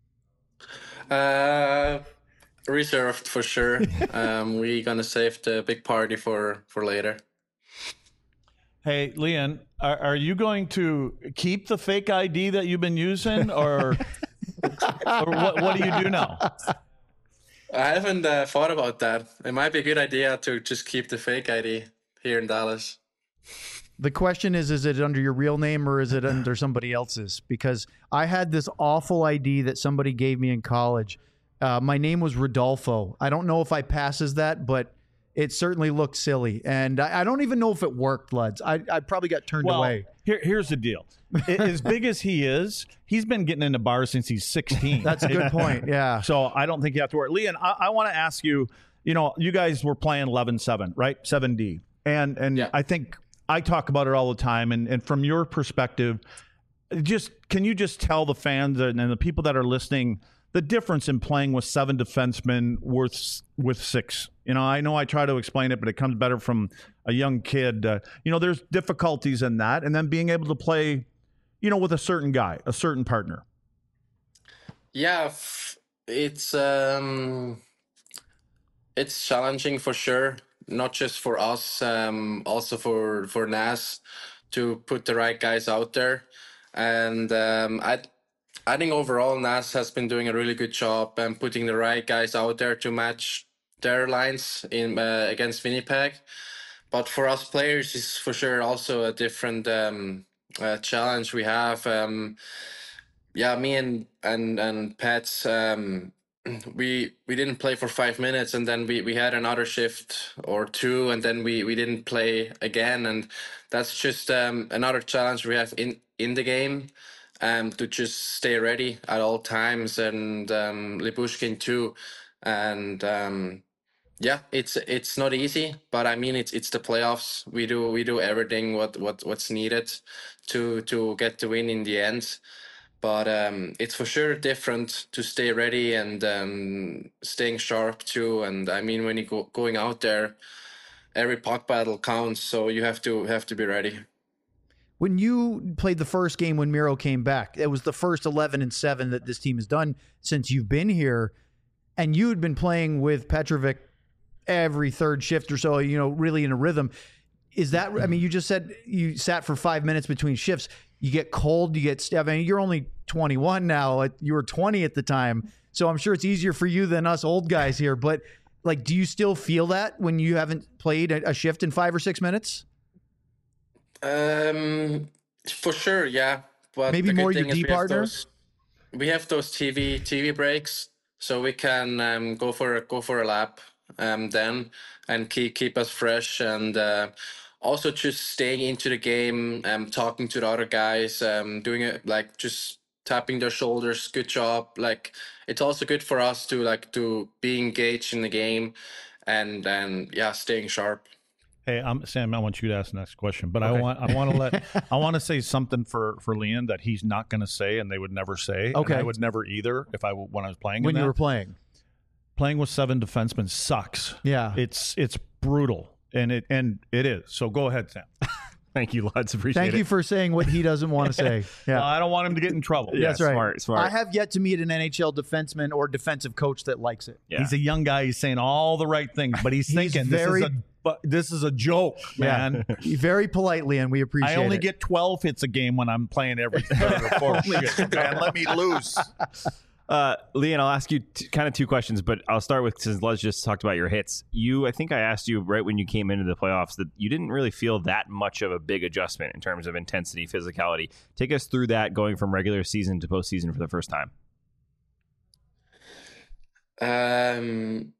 Speaker 9: Uh, reserved for sure. um, we're going to save the big party for, for later.
Speaker 1: Hey, Lian, are, are you going to keep the fake I D that you've been using, or, or what, what do you do now?
Speaker 9: I haven't uh, thought about that. It might be a good idea to just keep the fake I D here in Dallas.
Speaker 3: The question is, is it under your real name or is it under somebody else's? Because I had this awful I D that somebody gave me in college. Uh, my name was Rodolfo. I don't know if I passes that, but it certainly looked silly. And I, I don't even know if it worked, Luds. I, I probably got turned
Speaker 1: well,
Speaker 3: away.
Speaker 1: Here, here's the deal. As big as he is, he's been getting into bars since he's sixteen.
Speaker 3: That's a good point, yeah.
Speaker 1: So I don't think you have to worry. Lian, I, I want to ask you, you know, you guys were playing eleven seven, right? seven D. And, and
Speaker 9: yeah.
Speaker 1: I think I talk about it all the time. And, and from your perspective, just can you just tell the fans and, and the people that are listening the difference in playing with seven defensemen with with six? You know, I know I try to explain it, but it comes better from a young kid. Uh, you know, there's difficulties in that, and then being able to play, you know, with a certain guy, a certain partner.
Speaker 9: Yeah, it's um, it's challenging for sure. Not just for us, um, also for for N A S to put the right guys out there, and um, I. I think overall N A S has been doing a really good job and um, putting the right guys out there to match their lines in uh, against Winnipeg. But for us players, it's for sure also a different um, uh, challenge we have. Um, yeah, me and and and Pets, um, we we didn't play for five minutes, and then we, we had another shift or two, and then we, we didn't play again, and that's just um, another challenge we have in in the game. Um, to just stay ready at all times, and um, Lyubushkin too, and um, yeah, it's it's not easy, but I mean it's it's the playoffs. We do we do everything what, what what's needed to to get the win in the end, but um, it's for sure different to stay ready and um, staying sharp too. And I mean when you go going out there, every puck battle counts, so you have to have to be ready.
Speaker 3: When you played the first game when Miro came back, it was the first eleven and seven that this team has done since you've been here, and you had been playing with Petrovic every third shift or so, you know, really in a rhythm. Is that, I mean, you just said you sat for five minutes between shifts. You get cold, you get, I mean, you're only twenty-one now. You were twenty at the time, so I'm sure it's easier for you than us old guys here. But, like, do you still feel that when you haven't played a shift in five or six minutes?
Speaker 9: Um, for sure, yeah. But
Speaker 3: maybe more your D partner.
Speaker 9: We have those T V T V breaks, so we can um, go for a, go for a lap um, then, and keep keep us fresh, and uh, also just staying into the game, um, talking to the other guys, um, doing it like just tapping their shoulders. Good job. Like it's also good for us to like to be engaged in the game, and and yeah, staying sharp.
Speaker 1: Hey, I'm Sam. I want you to ask the next question, but okay. I want I want to let I want to say something for for Lian that he's not going to say, and they would never say.
Speaker 3: Okay,
Speaker 1: and I would never either if I when I was playing.
Speaker 3: When
Speaker 1: in
Speaker 3: you
Speaker 1: that.
Speaker 3: were playing,
Speaker 1: playing with seven defensemen sucks.
Speaker 3: Yeah,
Speaker 1: it's it's brutal, and it and it is. So go ahead, Sam.
Speaker 8: Thank you, Luds. Appreciate
Speaker 3: Thank
Speaker 8: it.
Speaker 3: you for saying what he doesn't want to say. Yeah,
Speaker 1: well, I don't want him to get in trouble.
Speaker 8: Yeah,
Speaker 3: that's right.
Speaker 8: Smart, smart.
Speaker 3: I have yet to meet an N H L defenseman or defensive coach that likes it.
Speaker 1: Yeah. He's a young guy. He's saying all the right things, but he's, he's thinking
Speaker 3: very,
Speaker 1: this is a but this is a joke, man.
Speaker 3: Yeah. Very politely, and we appreciate it.
Speaker 1: I only
Speaker 3: it.
Speaker 1: get twelve hits a game when I'm playing every third or fourth shift, man. Let me loose.
Speaker 8: Uh, Lian, I'll ask you t- kind of two questions, but I'll start with, since Les just talked about your hits. You, I think I asked you right when you came into the playoffs that you didn't really feel that much of a big adjustment in terms of intensity, physicality. Take us through that going from regular season to postseason for the first time.
Speaker 9: Um,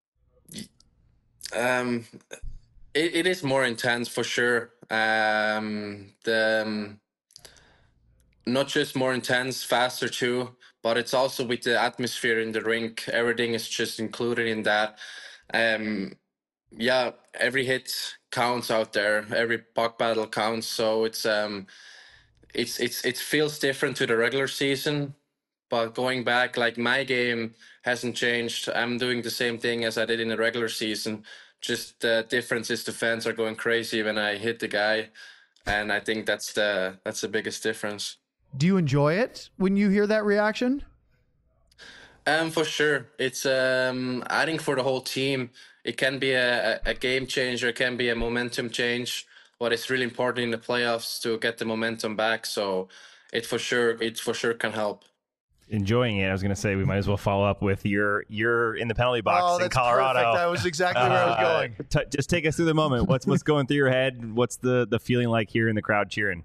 Speaker 9: um, it, it is more intense for sure. Um, the um, not just more intense, faster too, but it's also with the atmosphere in the rink. Everything is just included in that. Um, yeah, every hit counts out there. Every puck battle counts. So it's um, it's it's it feels different to the regular season. But going back, like my game hasn't changed. I'm doing the same thing as I did in the regular season. Just the difference is the fans are going crazy when I hit the guy, and I think that's the that's the biggest difference.
Speaker 3: Do you enjoy it when you hear that reaction?
Speaker 9: Um, for sure. It's um, I think for the whole team, it can be a, a game changer. It can be a momentum change. But it's really important in the playoffs to get the momentum back. So it for sure, it for sure can help.
Speaker 8: Enjoying it. I was going to say we might as well follow up with your you're in the penalty box
Speaker 3: Oh,
Speaker 8: in
Speaker 3: that's
Speaker 8: Colorado.
Speaker 3: perfect. That was exactly where I was going.
Speaker 8: Uh, t- just take us through the moment. What's what's going through your head? What's the the feeling like here in the crowd cheering?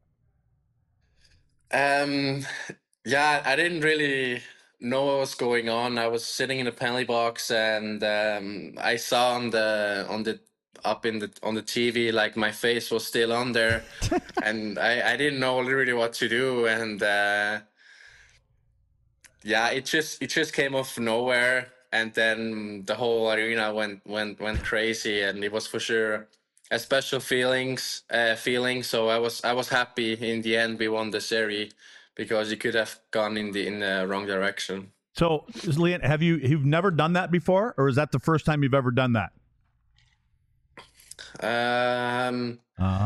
Speaker 9: Um, yeah, I didn't really know what was going on. I was sitting in the penalty box, and um, I saw on the on the up in the on the T V like my face was still on there, and I I didn't know really what to do, and uh, yeah, it just it just came off nowhere, and then the whole arena went went went crazy, and it was for sure a special feelings uh, feeling. So I was I was happy in the end we won the series, because you could have gone in the in the wrong direction.
Speaker 1: So, Leon, have you you've never done that before, or is that the first time you've ever done that?
Speaker 9: Um.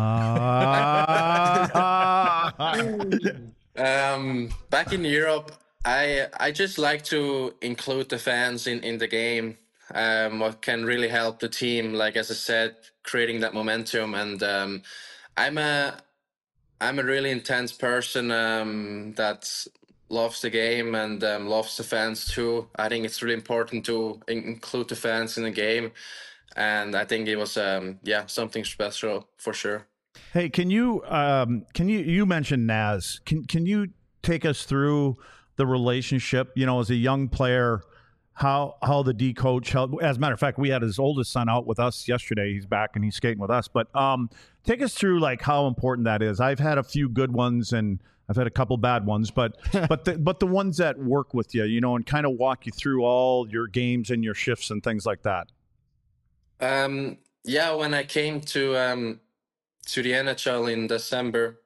Speaker 9: um. Back in Europe, I I just like to include the fans in in the game. Um, what can really help the team, like as I said, creating that momentum. And um, I'm a I'm a really intense person um, that loves the game and um, loves the fans too. I think it's really important to in- include the fans in the game, and I think it was um, yeah something special for sure.
Speaker 1: Hey, can you um, can you you mentioned Naz? Can can you take us through the relationship? You know, as a young player, how how the D coach held. As a matter of fact, we had his oldest son out with us yesterday. He's back and he's skating with us. But um, take us through like how important that is. I've had a few good ones and I've had a couple bad ones, but but the, but the ones that work with you, you know, and kind of walk you through all your games and your shifts and things like that.
Speaker 9: Um, yeah, when I came to um, to the N H L in December,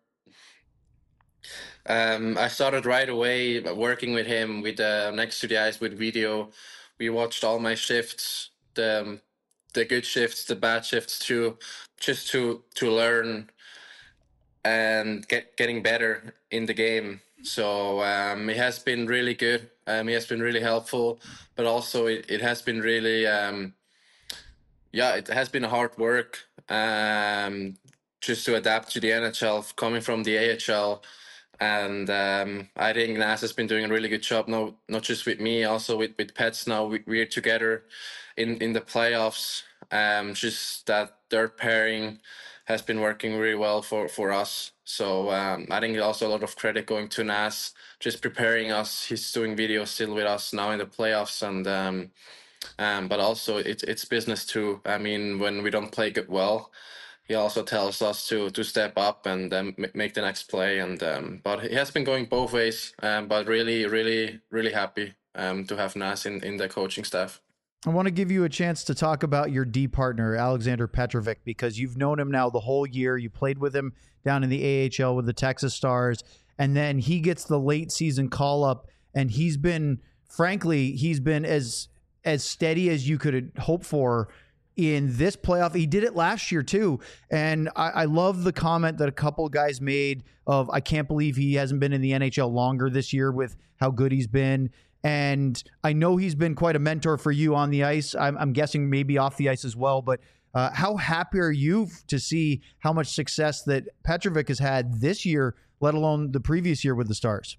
Speaker 9: um, I started right away working with him with uh, next to the ice with video. We watched all my shifts, the the good shifts, the bad shifts too, just to to learn and get getting better in the game. So um, it has been really good. Um, it has been really helpful, but also it, it has been really um, yeah, it has been hard work um, just to adapt to the N H L, coming from the A H L. And um, I think Naz has been doing a really good job, no, not just with me, also with, with Pets now. We, we're together in, in the playoffs. Um, just that third pairing has been working really well for, for us. So um, I think also a lot of credit going to Naz, just preparing us. He's doing videos still with us now in the playoffs. And um, um, but also it, it's business too. I mean, when we don't play good well, he also tells us to to step up and um, make the next play. And um, but he has been going both ways. Um, but really, really, really happy um, to have Naz in, in the coaching staff.
Speaker 3: I want to give you a chance to talk about your D partner, Alexander Petrovic, because you've known him now the whole year. You played with him down in the A H L with the Texas Stars, and then he gets the late season call up, and he's been, frankly, he's been as as steady as you could hope for in this playoff. He did it last year too. And I, I love the comment that a couple of guys made of, I can't believe he hasn't been in the N H L longer this year with how good he's been. And I know he's been quite a mentor for you on the ice. I'm, I'm guessing maybe off the ice as well. But uh, how happy are you to see how much success that Petrovic has had this year, let alone the previous year with the Stars?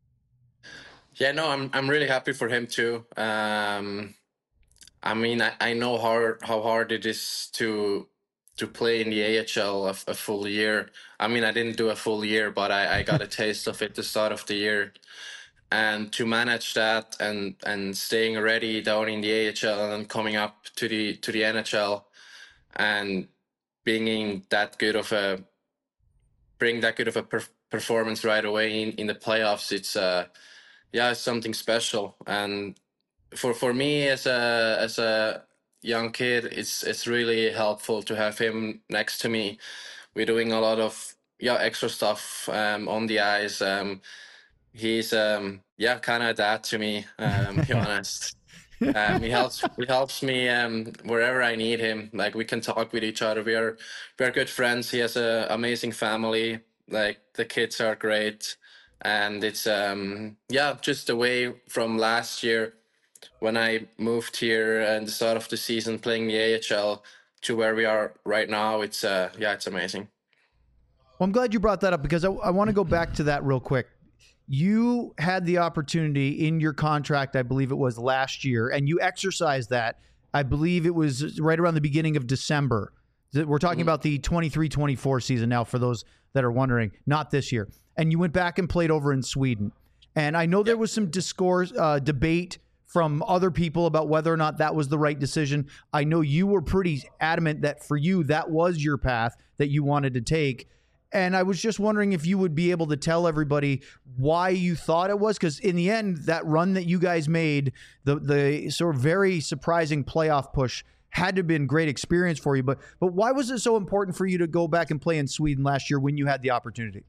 Speaker 9: Yeah, no, I'm I'm really happy for him too. Um, I mean, I, I know how how hard it is to to play in the A H L a, a full year. I mean, I didn't do a full year, but I, I got a taste of it at the start of the year. And to manage that and and staying ready down in the A H L and then coming up to the to the N H L and being that good of a bring that good of a per- performance right away in, in the playoffs, it's uh, yeah, it's something special. And for for me as a as a young kid, it's it's really helpful to have him next to me. We're doing a lot of yeah extra stuff um, on the ice. Um, he's um, yeah kind of a dad to me. Um, to be honest. Um, he helps. He helps me um, wherever I need him. Like we can talk with each other. We are we are good friends. He has an amazing family. Like the kids are great, and it's um yeah just away from last year when I moved here and the start of the season playing the A H L to where we are right now. It's uh yeah it's amazing.
Speaker 3: Well, I'm glad you brought that up because I, I want to go back to that real quick. You had the opportunity in your contract, I believe it was last year, and you exercised that. I believe it was right around the beginning of December. We're talking mm-hmm. about the twenty-three twenty-four season now, for those that are wondering, not this year. And you went back and played over in Sweden. And I know there was some discourse, uh, debate from other people about whether or not that was the right decision. I know you were pretty adamant that for you, that was your path that you wanted to take. And I was just wondering if you would be able to tell everybody why you thought it was, because in the end, that run that you guys made, the the sort of very surprising playoff push, had to have been great experience for you. But but why was it so important for you to go back and play in Sweden last year when you had the opportunity?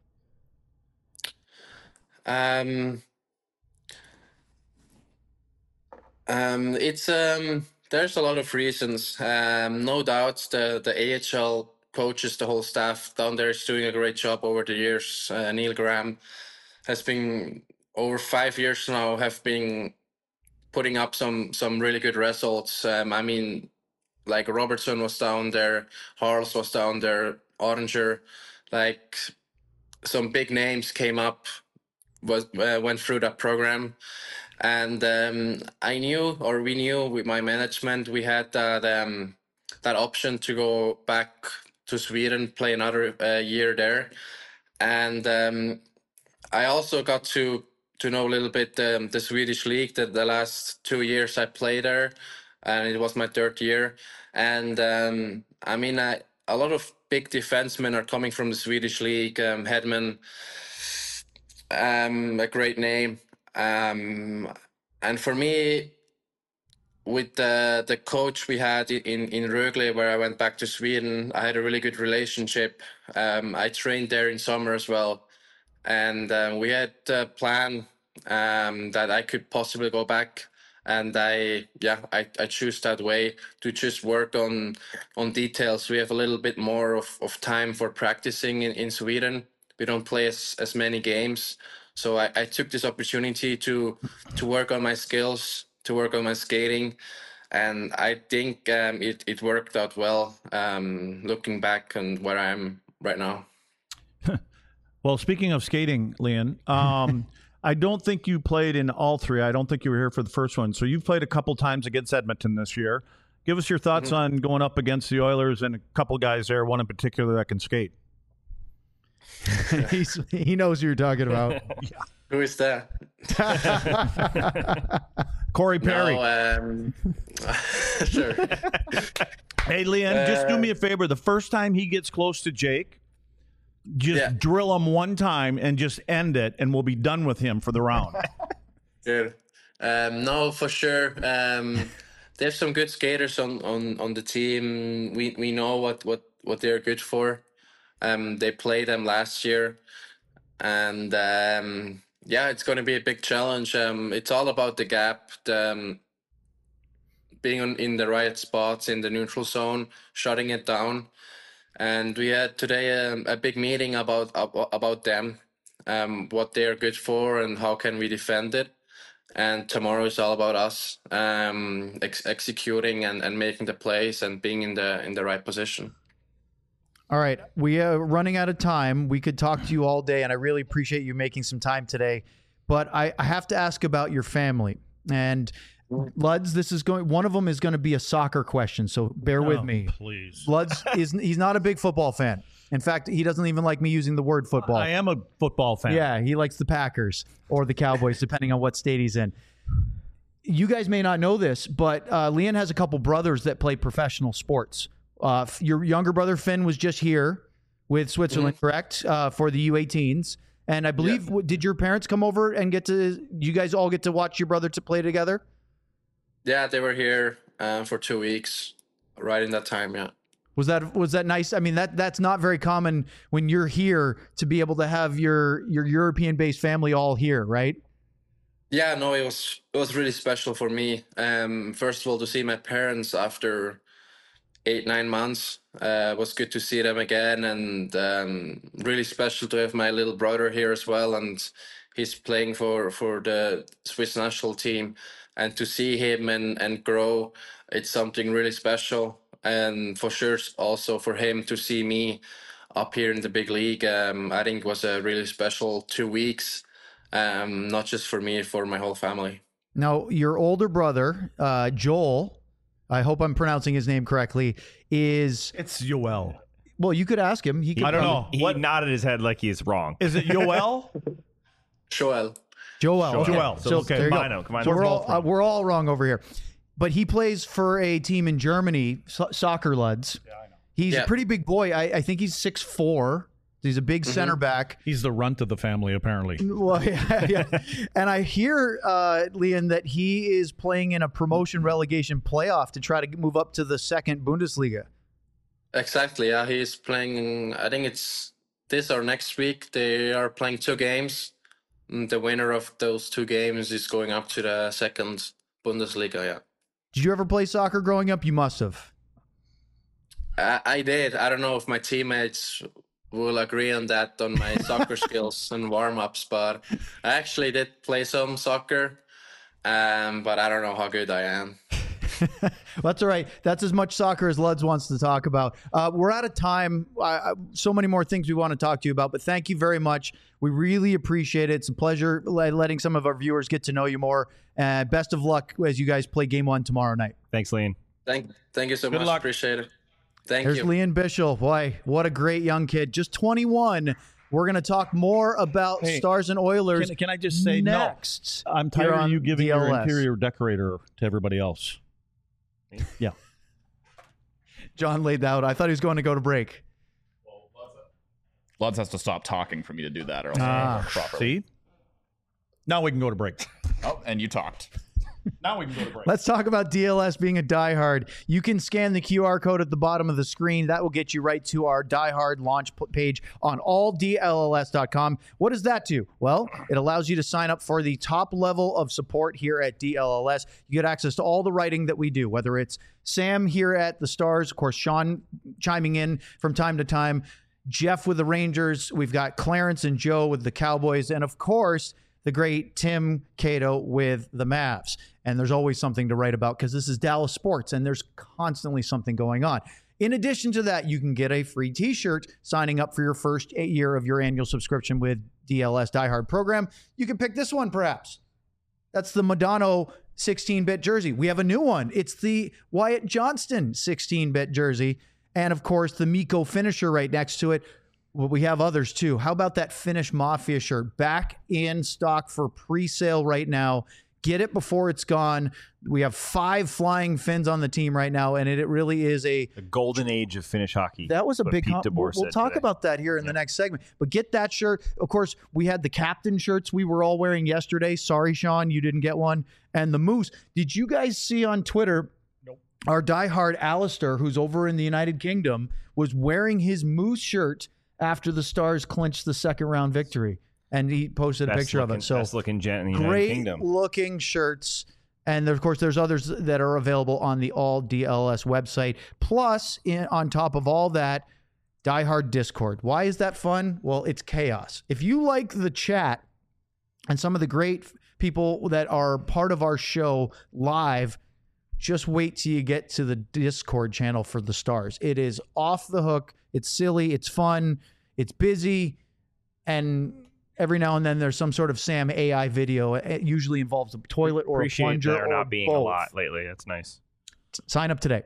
Speaker 9: Um, um, it's um, there's a lot of reasons. Um, no doubt the the A H L coaches, the whole staff down there is doing a great job over the years. Uh, Neil Graham has been over five years now, have been putting up some some really good results. Um, I mean, like Robertson was down there, Harls was down there, Oranger, like some big names came up, was uh, went through that program. And um, I knew, or we knew with my management, we had that um, that option to go back to Sweden, play another uh, year there. And um, I also got to to know a little bit um, the Swedish league. That the last two years I played there, and it was my third year. And um, I mean, I, a lot of big defensemen are coming from the Swedish league. Um, Hedman, um, a great name. Um, and for me, with the the coach we had in in Rögle, where I went back to Sweden, I had a really good relationship. Um, I trained there in summer as well, and um, we had a plan um, that I could possibly go back. And I yeah I, I choose that way to just work on on details. We have a little bit more of, of time for practicing in, in Sweden. We don't play as, as many games, so I, I took this opportunity to to work on my skills, to work on my skating, and I think um, it, it worked out well, um, looking back on where I am right now.
Speaker 1: Well, speaking of skating, Lian, um, I don't think you played in all three. I don't think you were here for the first one. So you've played a couple times against Edmonton this year. Give us your thoughts mm-hmm. on going up against the Oilers and a couple guys there, one in particular that can skate.
Speaker 3: He's, he knows who you're talking about.
Speaker 9: Yeah. Who is that?
Speaker 1: Corey Perry.
Speaker 9: No, um, sure.
Speaker 1: Hey, Lian, uh, just do me a favor. The first time he gets close to Jake, just yeah. drill him one time and just end it, and we'll be done with him for the round.
Speaker 9: Good. Um, no, for sure. Um, there's some good skaters on, on, on the team. We we know what, what, what they're good for. Um, they played them last year, and um, yeah, it's going to be a big challenge. Um, it's all about the gap, the, um, being on, in the right spots in the neutral zone, shutting it down. And we had today a, a big meeting about about them, um, what they're good for, and how can we defend it. And tomorrow is all about us um, ex- executing and, and making the plays and being in the in the right position.
Speaker 3: All right, we are running out of time. We could talk to you all day, and I really appreciate you making some time today. But I, I have to ask about your family. And Luds, this is going. One of them is going to be a soccer question, so bear
Speaker 1: oh,
Speaker 3: with me.
Speaker 1: Please,
Speaker 3: Luds is he's not a big football fan. In fact, he doesn't even like me using the word football.
Speaker 1: I am a football fan.
Speaker 3: Yeah, he likes the Packers or the Cowboys, depending on what state he's in. You guys may not know this, but uh, Lian has a couple brothers that play professional sports. Uh, your younger brother, Finn, was just here with Switzerland, mm-hmm. correct, uh, for the U eighteens. And I believe, w did your parents come over and get to, you guys all get to watch your brother to play together?
Speaker 9: Yeah, they were here uh, for two weeks, right in that time. Yeah.
Speaker 3: Was that was that nice? I mean, that that's not very common when you're here to be able to have your your European-based family all here, right?
Speaker 9: Yeah, no, it was it was really special for me. Um, first of all, to see my parents after eight nine months uh, was good to see them again, and um, really special to have my little brother here as well. And he's playing for for the Swiss national team, and to see him and and grow, it's something really special. And for sure, also for him to see me up here in the big league, um, I think was a really special two weeks. Um, not just for me, for my whole family.
Speaker 3: Now, your older brother, uh, Joel, I hope I'm pronouncing his name correctly, is...
Speaker 1: It's Yoel.
Speaker 3: Well, you could ask him. He could
Speaker 1: I don't know.
Speaker 8: He
Speaker 1: What
Speaker 8: nodded his head like he's wrong.
Speaker 1: is it? Yoel?
Speaker 9: Joel.
Speaker 3: Joel.
Speaker 1: Joel.
Speaker 3: So,
Speaker 1: Okay,
Speaker 3: there you go.
Speaker 8: combine 'em, combine
Speaker 3: So
Speaker 8: 'em.
Speaker 3: we're
Speaker 8: We're
Speaker 3: all,
Speaker 8: both
Speaker 3: uh,
Speaker 8: wrong.
Speaker 3: we're all wrong over here. But he plays for a team in Germany, so Soccer Luds. Yeah, I know. He's
Speaker 9: Yeah.
Speaker 3: a pretty big boy. I, I think he's six foot four. He's a big center back.
Speaker 1: He's the runt of the family, apparently.
Speaker 3: Well, yeah, yeah. And I hear, uh, Leon, that he is playing in a promotion relegation playoff to try to move up to the second Bundesliga.
Speaker 9: Exactly. Yeah, he's playing. I think it's this or next week. They are playing two games. And the winner of those two games is going up to the second Bundesliga. Yeah.
Speaker 3: Did you ever play soccer growing up? You must have.
Speaker 9: I, I did. I don't know if my teammates will agree on that on my soccer skills and warm ups, but I actually did play some soccer. Um, but I don't know how good I am.
Speaker 3: Well, that's all right. That's as much soccer as Luds wants to talk about. Uh, we're out of time. I, I, so many more things we want to talk to you about, but thank you very much. We really appreciate it. It's a pleasure letting some of our viewers get to know you more. Uh, best of luck as you guys play game one tomorrow night.
Speaker 8: Thanks, Lean.
Speaker 9: Thank, thank you so
Speaker 1: Good
Speaker 9: much.
Speaker 1: luck.
Speaker 9: Appreciate it. Thank
Speaker 3: There's
Speaker 9: you.
Speaker 3: Leon Bischel. Boy, what a great young kid. Just twenty-one. We're going to talk more about
Speaker 1: Hey,
Speaker 3: Stars and Oilers.
Speaker 1: Can, can I just say
Speaker 3: next?
Speaker 1: no? I'm
Speaker 3: here
Speaker 1: tired of
Speaker 3: on
Speaker 1: you giving
Speaker 3: D L
Speaker 1: your
Speaker 3: S.
Speaker 1: interior decorator to everybody else. Yeah.
Speaker 3: John laid that out. I thought he was going to go to break.
Speaker 5: Luds has to stop talking for me to do that, or else I
Speaker 3: Ah,
Speaker 5: won't work properly.
Speaker 1: See? Now we can go to break.
Speaker 5: Oh, and you talked.
Speaker 1: Now we can go to break.
Speaker 3: Let's talk about D L S being a diehard. You can scan the Q R code at the bottom of the screen. That will get you right to our diehard launch p- page on all D L L S dot com. What does that do? Well, it allows you to sign up for the top level of support here at D L L S. You get access to all the writing that we do, whether it's Sam here at the Stars, of course, Sean chiming in from time to time, Jeff with the Rangers. We've got Clarence and Joe with the Cowboys, and of course, the great Tim Cato with the Mavs. And there's always something to write about because this is Dallas sports and there's constantly something going on. In addition to that, you can get a free t-shirt signing up for your first year of your annual subscription with D L S Die Hard program. You can pick this one perhaps. That's the Madonna sixteen-bit jersey. We have a new one. It's the Wyatt Johnston sixteen-bit jersey. And of course, the Miko finisher right next to it. Well, we have others too. How about that Finnish Mafia shirt? Back in stock for pre-sale right now. Get it before it's gone. We have five flying Finns on the team right now, and it, it really is a
Speaker 8: The golden age of Finnish hockey.
Speaker 3: that was a
Speaker 8: what
Speaker 3: big.
Speaker 8: Pete
Speaker 3: Com-
Speaker 8: DeBoer
Speaker 3: we'll we'll
Speaker 8: said
Speaker 3: talk
Speaker 8: today.
Speaker 3: about that here in the next segment. But get that shirt. Of course, we had the captain shirts we were all wearing yesterday. Sorry, Sean, you didn't get one. And the Moose. Did you guys see on Twitter? Nope. Our diehard Alistair, who's over in the United Kingdom, was wearing his Moose shirt after the Stars clinched the second round victory. And he posted a
Speaker 8: Best
Speaker 3: picture
Speaker 8: looking,
Speaker 3: of it. So
Speaker 8: best looking gent in the United
Speaker 3: great
Speaker 8: Kingdom.
Speaker 3: looking shirts. And there, of course, there's others that are available on the All D L S website. Plus, in, on top of all that, Die Hard Discord. Why is that fun? Well, it's chaos. If you like the chat and some of the great people that are part of our show live, just wait till you get to the Discord channel for the Stars. It is off the hook. It's silly. It's fun. It's busy. And every now and then there's some sort of Sam A I video. It usually involves a toilet or
Speaker 8: Appreciate
Speaker 3: a plunger
Speaker 8: there
Speaker 3: or
Speaker 8: not being
Speaker 3: both.
Speaker 8: a lot lately. That's nice.
Speaker 3: Sign up today.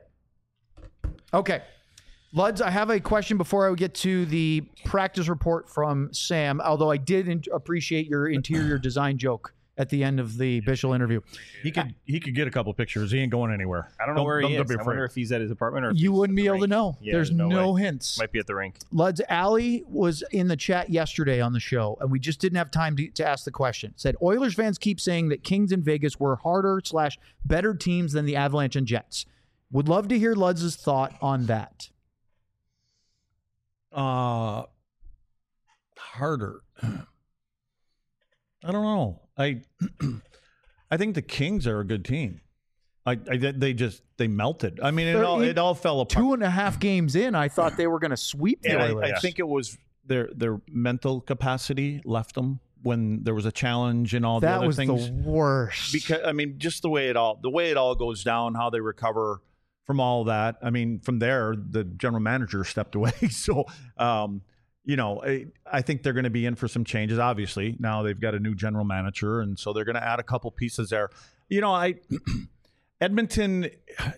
Speaker 3: Okay. Luds, I have a question before I get to the practice report from Sam, although I did in- appreciate your interior design joke
Speaker 2: at the end of the Bischel interview.
Speaker 1: He could he could get a couple pictures. He ain't going anywhere.
Speaker 8: I don't know where he
Speaker 1: don't
Speaker 8: is.
Speaker 1: be
Speaker 8: I
Speaker 1: afraid.
Speaker 8: wonder if he's at his apartment or if
Speaker 2: You
Speaker 8: he's
Speaker 2: wouldn't
Speaker 8: at
Speaker 2: be
Speaker 8: the
Speaker 2: able to
Speaker 8: rink.
Speaker 2: know.
Speaker 8: Yeah,
Speaker 2: There's no,
Speaker 8: no way.
Speaker 2: hints.
Speaker 8: Might be at the rink.
Speaker 2: Luds, Allie was in the chat yesterday on the show, and we just didn't have time to, to ask the question. Said, Oilers fans keep saying that Kings and Vegas were harder slash better teams than the Avalanche and Jets. Would love to hear Luds' thought on that.
Speaker 1: Uh, harder. I don't know. I I think the Kings are a good team. I, I they just they melted. I mean, it all it all fell apart.
Speaker 2: Two and a half games in, I thought they were going to sweep the
Speaker 1: And
Speaker 2: Oilers.
Speaker 1: I, I think it was their their mental capacity left them when there was a challenge and all the
Speaker 2: that
Speaker 1: other
Speaker 2: was
Speaker 1: things.
Speaker 2: the worst.
Speaker 1: Because I mean, just the way it all the way it all goes down, how they recover from all that. I mean, from there, the general manager stepped away. So, um, you know, I, I think they're going to be in for some changes. Obviously, now they've got a new general manager, and so they're going to add a couple pieces there. You know, I Edmonton.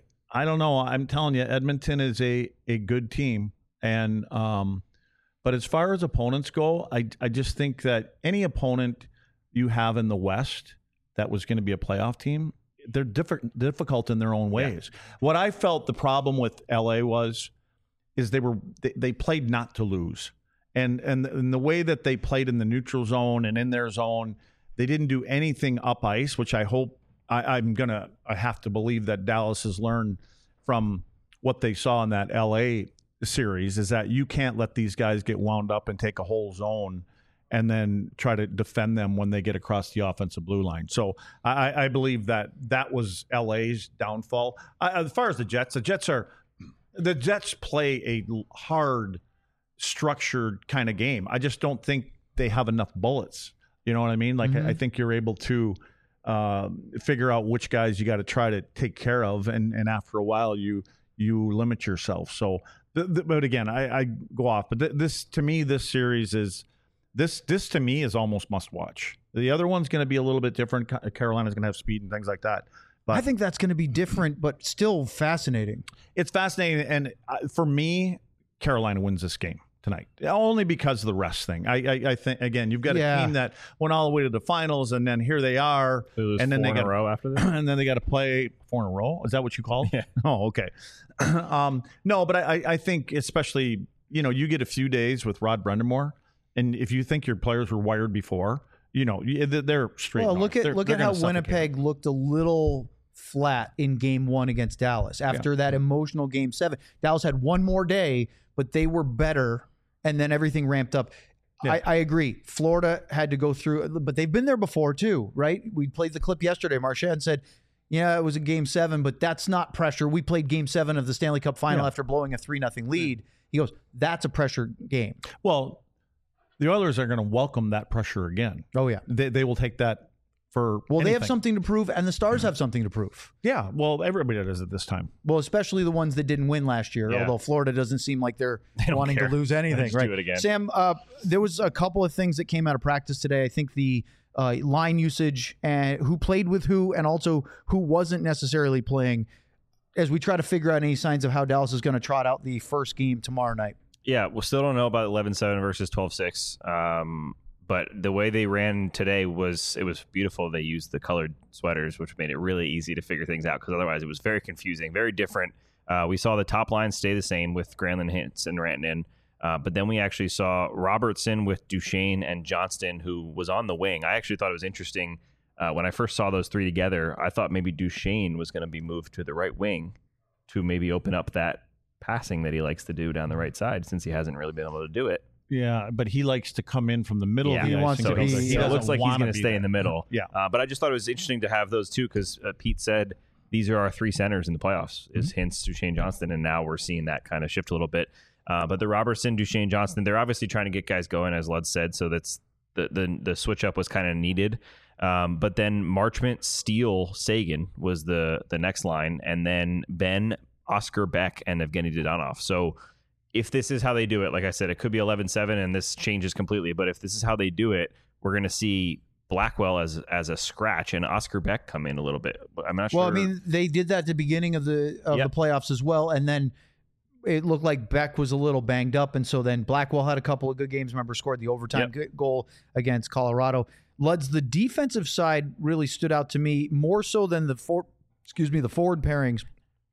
Speaker 1: I don't know. I'm telling you, Edmonton is a a good team, and um, but as far as opponents go, I I just think that any opponent you have in the West that was going to be a playoff team, they're different, difficult in their own ways. Yeah. What I felt the problem with L A was, is they were they, they played not to lose, and and and the way that they played in the neutral zone and in their zone, they didn't do anything up ice, which I hope I, I'm gonna I have to believe that Dallas has learned from what they saw in that L A series, is that you can't let these guys get wound up and take a whole zone and then try to defend them when they get across the offensive blue line. So I, I believe that that was L A's downfall. I, as far as the Jets, the Jets are the Jets play a hard, structured kind of game. I just don't think they have enough bullets. You know what I mean? Like mm-hmm. I, I think you're able to uh, figure out which guys you got to try to take care of, and and after a while you you limit yourself. So, th- th- but again, I, I go off. But th- this to me, this series is. This this to me is almost must watch. The other one's going to be a little bit different. Carolina's going to have speed and things like that. But
Speaker 3: I think that's going to be different, but still fascinating.
Speaker 1: It's fascinating, and for me, Carolina wins this game tonight, only because of the rest thing. I I, I think again, you've got a
Speaker 3: Yeah.
Speaker 1: team that went all the way to the finals, and then here they are,
Speaker 8: They lose
Speaker 1: and then
Speaker 8: four
Speaker 1: they
Speaker 8: in
Speaker 1: got
Speaker 8: a row after this.
Speaker 1: and then they got to play four in a row. Is that what you call it?
Speaker 8: Yeah.
Speaker 1: Oh, okay. um, no, but I I think especially you know you get a few days with Rod Brendamore. And if you think your players were wired before, you know they're straight.
Speaker 3: Well,
Speaker 1: north.
Speaker 3: look at
Speaker 1: They're-
Speaker 3: look
Speaker 1: they're
Speaker 3: at how
Speaker 1: gonna suffocate.
Speaker 3: Winnipeg looked a little flat in Game One against Dallas after that emotional Game Seven. Dallas had one more day, but they were better, and then everything ramped up.
Speaker 1: Yeah.
Speaker 3: I, I agree. Florida had to go through, but they've been there before too, right? We played the clip yesterday. Marchand said, "Yeah, it was a Game Seven, but that's not pressure. We played Game Seven of the Stanley Cup Final
Speaker 1: Yeah.
Speaker 3: after blowing a three nothing lead." He goes, "That's a pressure game."
Speaker 1: Well, the Oilers are going to welcome that pressure again.
Speaker 3: Oh yeah.
Speaker 1: They they will take that for.
Speaker 3: Well, they have
Speaker 1: anything.
Speaker 3: something to prove, and the Stars have something to prove.
Speaker 1: Yeah. Well, everybody does at this time.
Speaker 3: Well, especially the ones that didn't win last year,
Speaker 8: Yeah.
Speaker 3: although Florida doesn't seem like they're
Speaker 8: don't
Speaker 3: wanting
Speaker 8: care.
Speaker 3: to lose anything,
Speaker 8: Just
Speaker 3: right?
Speaker 8: do it again.
Speaker 3: Sam, uh, there was a couple of things that came out of practice today. I think the uh, line usage and who played with who, and also who wasn't necessarily playing, as we try to figure out any signs of how Dallas is going to trot out the first game tomorrow night.
Speaker 8: Yeah, we still don't know about eleven seven versus twelve six. Um, but the way they ran today was it was beautiful. They used the colored sweaters, which made it really easy to figure things out, because otherwise it was very confusing, very different. Uh, we saw the top line stay the same with Granlund, Hintz, and Rantanen. Uh, but then we actually saw Robertson with Duchesne and Johnston, who was on the wing. I actually thought it was interesting uh, when I first saw those three together. I thought maybe Duchesne was going to be moved to the right wing to maybe open up that passing that he likes to do down the right side, since he hasn't really been able to do it.
Speaker 1: Yeah, but he likes to come in from the middle
Speaker 8: Yeah,
Speaker 1: of the
Speaker 3: he
Speaker 1: ice.
Speaker 3: wants
Speaker 1: and
Speaker 3: to
Speaker 1: get
Speaker 3: be-
Speaker 1: over.
Speaker 3: he
Speaker 1: He
Speaker 8: so it
Speaker 1: doesn't
Speaker 8: looks like he's
Speaker 1: wanna
Speaker 8: going to
Speaker 1: be
Speaker 8: stay
Speaker 1: there.
Speaker 8: in the middle.
Speaker 1: Yeah.
Speaker 8: Uh, but I just thought it was interesting to have those two, because uh, Pete said these are our three centers in the playoffs, is
Speaker 1: Mm-hmm.
Speaker 8: Hintz, Duchesne, Johnston, and now we're seeing that kind of shift a little bit. Uh, but the Robertson, Duchesne, Johnston, they're obviously trying to get guys going, as Lud said, so that's the the, the switch up was kind of needed. Um, but then Marchment, Steele, Sagan was the the next line, and then Ben, Oscar Beck, and Evgeny Dodonov. So if this is how they do it, like I said, it could be eleven seven and this changes completely. But if this is how they do it, we're going to see Blackwell as as a scratch and Oscar Beck come in a little bit. I'm not
Speaker 3: Well,
Speaker 8: sure.
Speaker 3: I mean, they did that at the beginning of the of
Speaker 8: Yep.
Speaker 3: the playoffs as well, and then it looked like Beck was a little banged up, and so then Blackwell had a couple of good games. Remember, scored the overtime
Speaker 8: Yep.
Speaker 3: good goal against Colorado. Luds, the defensive side really stood out to me more so than the for, excuse me, the forward pairings.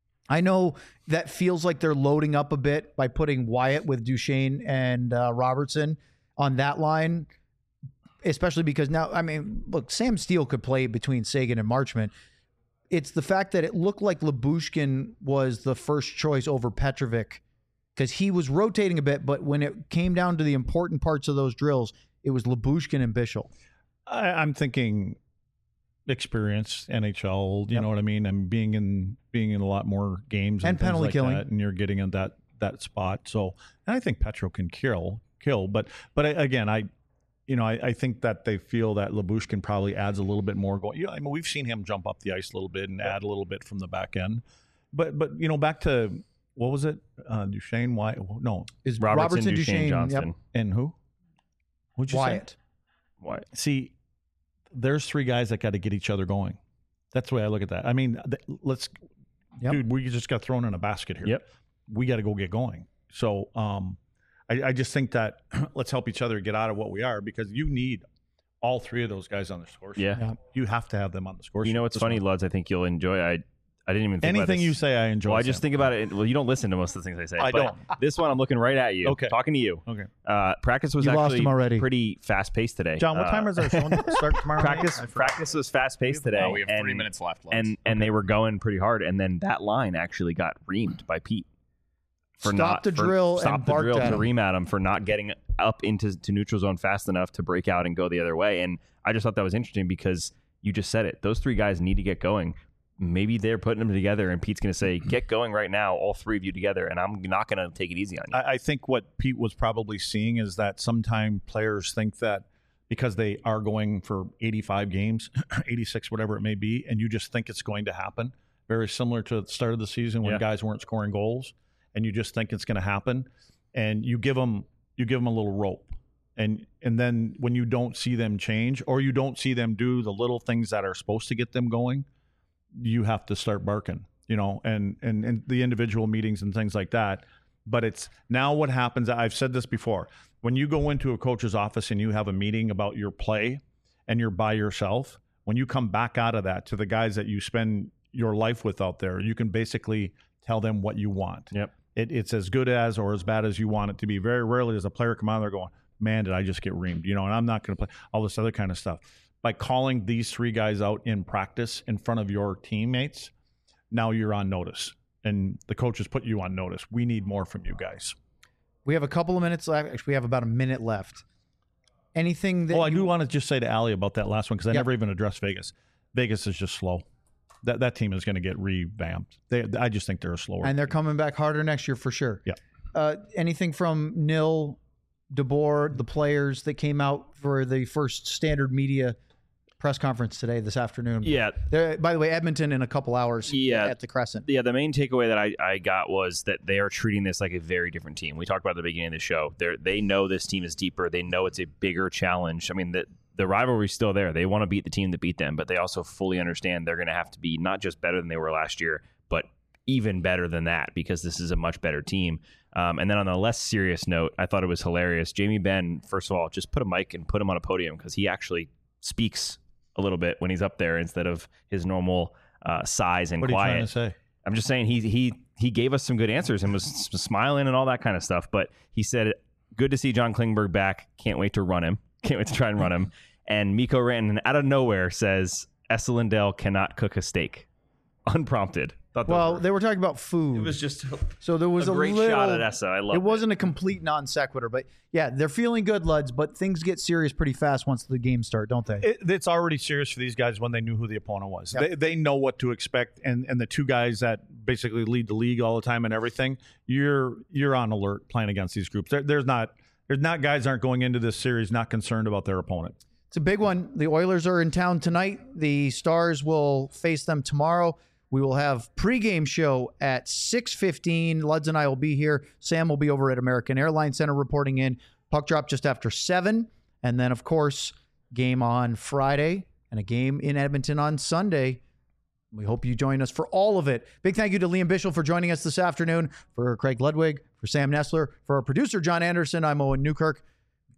Speaker 3: I know that feels like they're loading up a bit by putting Wyatt with Duchesne and uh, Robertson on that line, especially because now, I mean, look, Sam Steele could play between Sagan and Marchment. It's the fact that it looked like Lyubushkin was the first choice over Petrovic because he was rotating a bit, but when it came down to the important parts of those drills, it was Lyubushkin and Bischel.
Speaker 1: I, I'm thinking experience, N H L, you
Speaker 3: Yep.
Speaker 1: know what I mean? I'm being in being in a lot more games and,
Speaker 3: And
Speaker 1: things
Speaker 3: penalty
Speaker 1: like
Speaker 3: killing.
Speaker 1: that, and you're getting in that that spot. So, and I think Petro can kill kill, but but I, again, I you know I, I think that they feel that Lyubushkin probably adds a little bit more going. You know, I mean, we've seen him jump up the ice a little bit and add a little bit from the back end, but but you know, back to what was it? Uh, Duchesne, why? No,
Speaker 3: Is
Speaker 4: Robertson,
Speaker 3: Robertson,
Speaker 4: Duchesne,
Speaker 3: Duchesne,
Speaker 4: Johnston.
Speaker 3: yep,
Speaker 1: and who? What'd you
Speaker 3: Wyatt.
Speaker 1: say?
Speaker 4: Why?
Speaker 1: See, there's three guys that got to get each other going. That's the way I look at that. I mean, th- let's,
Speaker 3: Yep.
Speaker 1: dude, we just got thrown in a basket here.
Speaker 4: Yep.
Speaker 1: We got to go get going. So, um, I, I just think that let's help each other get out of what we are because you need all three of those guys on the score sheet.
Speaker 4: Yeah.
Speaker 3: Yeah.
Speaker 1: You have to have them on the score sheet.
Speaker 4: You know what's
Speaker 1: This
Speaker 4: funny,
Speaker 1: one.
Speaker 4: Luds? I think you'll enjoy. I I didn't even think about
Speaker 1: Anything
Speaker 4: this.
Speaker 1: you say, I enjoy.
Speaker 4: Well, I just
Speaker 1: Sam.
Speaker 4: think about it. Well, you don't listen to most of the things I say.
Speaker 1: I
Speaker 4: but
Speaker 1: don't.
Speaker 4: This one, I'm looking right at you.
Speaker 1: Okay.
Speaker 4: Talking to you.
Speaker 1: Okay.
Speaker 4: Uh, practice was
Speaker 3: You lost
Speaker 4: actually
Speaker 3: him already.
Speaker 4: pretty fast paced today.
Speaker 1: John, what
Speaker 4: Uh,
Speaker 1: time is our show start tomorrow? night?
Speaker 4: Practice
Speaker 1: I forgot.
Speaker 4: practice was fast paced today.
Speaker 5: Oh, we have three
Speaker 4: and-
Speaker 5: minutes left. Let's.
Speaker 4: and and they were going pretty hard, and then that line actually got reamed by Pete for
Speaker 3: Stopped
Speaker 4: not
Speaker 3: the
Speaker 4: for-
Speaker 3: drill
Speaker 4: stopped
Speaker 3: and
Speaker 4: the
Speaker 3: barked
Speaker 4: drill
Speaker 3: at
Speaker 4: to
Speaker 3: him.
Speaker 4: ream at him for not getting up into to neutral zone fast enough to break out and go the other way. And I just thought that was interesting because you just said it. Those three guys need to get going. Maybe they're putting them together, and Pete's going to say, "Get going right now, all three of you together," and I'm not going to take it easy on you.
Speaker 1: I, I think what Pete was probably seeing is that sometimes players think that because they are going for eighty-five games, eighty-six, whatever it may be, and you just think it's going to happen. Very similar to the start of the season when
Speaker 4: Yeah.
Speaker 1: guys weren't scoring goals, and you just think it's going to happen, and you give them you give them a little rope, and and then when you don't see them change or you don't see them do the little things that are supposed to get them going, you have to start barking, you know, and, and, and the individual meetings and things like that. But it's now what happens. I've said this before. When you go into a coach's office and you have a meeting about your play and you're by yourself, when you come back out of that to the guys that you spend your life with out there, you can basically tell them what you want.
Speaker 4: Yep.
Speaker 1: It, it's as good as or as bad as you want it to be. Very rarely does a player come out there going, man, did I just get reamed? You know, and I'm not going to play all this other kind of stuff. By calling these three guys out in practice in front of your teammates, now you're on notice. And the coaches put you on notice. We need more from you guys.
Speaker 3: We have a couple of minutes left. Actually, we have about a minute left. Anything that
Speaker 1: Oh, I
Speaker 3: you-
Speaker 1: do want to just say to Ali about that last one because I
Speaker 3: Yep.
Speaker 1: never even addressed Vegas. Vegas is just slow. That that team is going to get revamped. They, I just think they're a slower.
Speaker 3: and they're coming back harder next year for sure.
Speaker 1: Yeah.
Speaker 3: Uh, anything from Nil, DeBoer, the players that came out for the first standard media press conference today, this afternoon?
Speaker 4: Yeah.
Speaker 3: They're, by the way, Edmonton in a couple hours
Speaker 4: Yeah.
Speaker 3: at the Crescent.
Speaker 4: Yeah, the main takeaway that I, I got was that they are treating this like a very different team. We talked about it at the beginning of the show. They they know this team is deeper. They know it's a bigger challenge. I mean, the the rivalry's still there. They want to beat the team that beat them, but they also fully understand they're going to have to be not just better than they were last year, but even better than that because this is a much better team. Um, and then on a less serious note, I thought it was hilarious. Jamie Benn, first of all, just put a mic and put him on a podium because he actually speaks a little bit when he's up there instead of his normal uh, size and
Speaker 1: what are you
Speaker 4: quiet.
Speaker 1: trying to say?
Speaker 4: I'm just saying he he he gave us some good answers and was s- smiling and all that kind of stuff. But he said, "Good to see John Klingberg back. Can't wait to run him. Can't wait to try and run him." And Mikko Rantanen out of nowhere says, "Esa Lindell cannot cook a steak," unprompted. Thought those
Speaker 3: Well,
Speaker 4: were-
Speaker 3: they were talking about food.
Speaker 4: it was just
Speaker 3: so there was
Speaker 4: a
Speaker 3: a,
Speaker 4: great
Speaker 3: little,
Speaker 4: shot at Essa. I love
Speaker 3: it. wasn't a complete non sequitur, but yeah, they're feeling good, Luds, but things get serious pretty fast once the games start, don't they?
Speaker 1: It, it's already serious for these guys when they knew who the opponent was.
Speaker 3: Yep.
Speaker 1: They, they know what to expect, and, and the two guys that basically lead the league all the time and everything, you're you're on alert playing against these groups. There, there's not there's not guys aren't going into this series not concerned about their opponent.
Speaker 3: It's a big one. The Oilers are in town tonight. The Stars will face them tomorrow. We will have pregame show at six fifteen. Luds and I will be here. Sam will be over at American Airlines Center reporting in. Puck drop just after seven. And then, of course, game on Friday and a game in Edmonton on Sunday. We hope you join us for all of it. Big thank you to Liam Bischel for joining us this afternoon. For Craig Ludwig, for Sam Nestler, for our producer, John Anderson, I'm Owen Newkirk.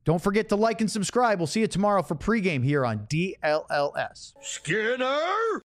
Speaker 3: Don't forget to like and subscribe. We'll see you tomorrow for pregame here on D L L S.
Speaker 10: Skinner!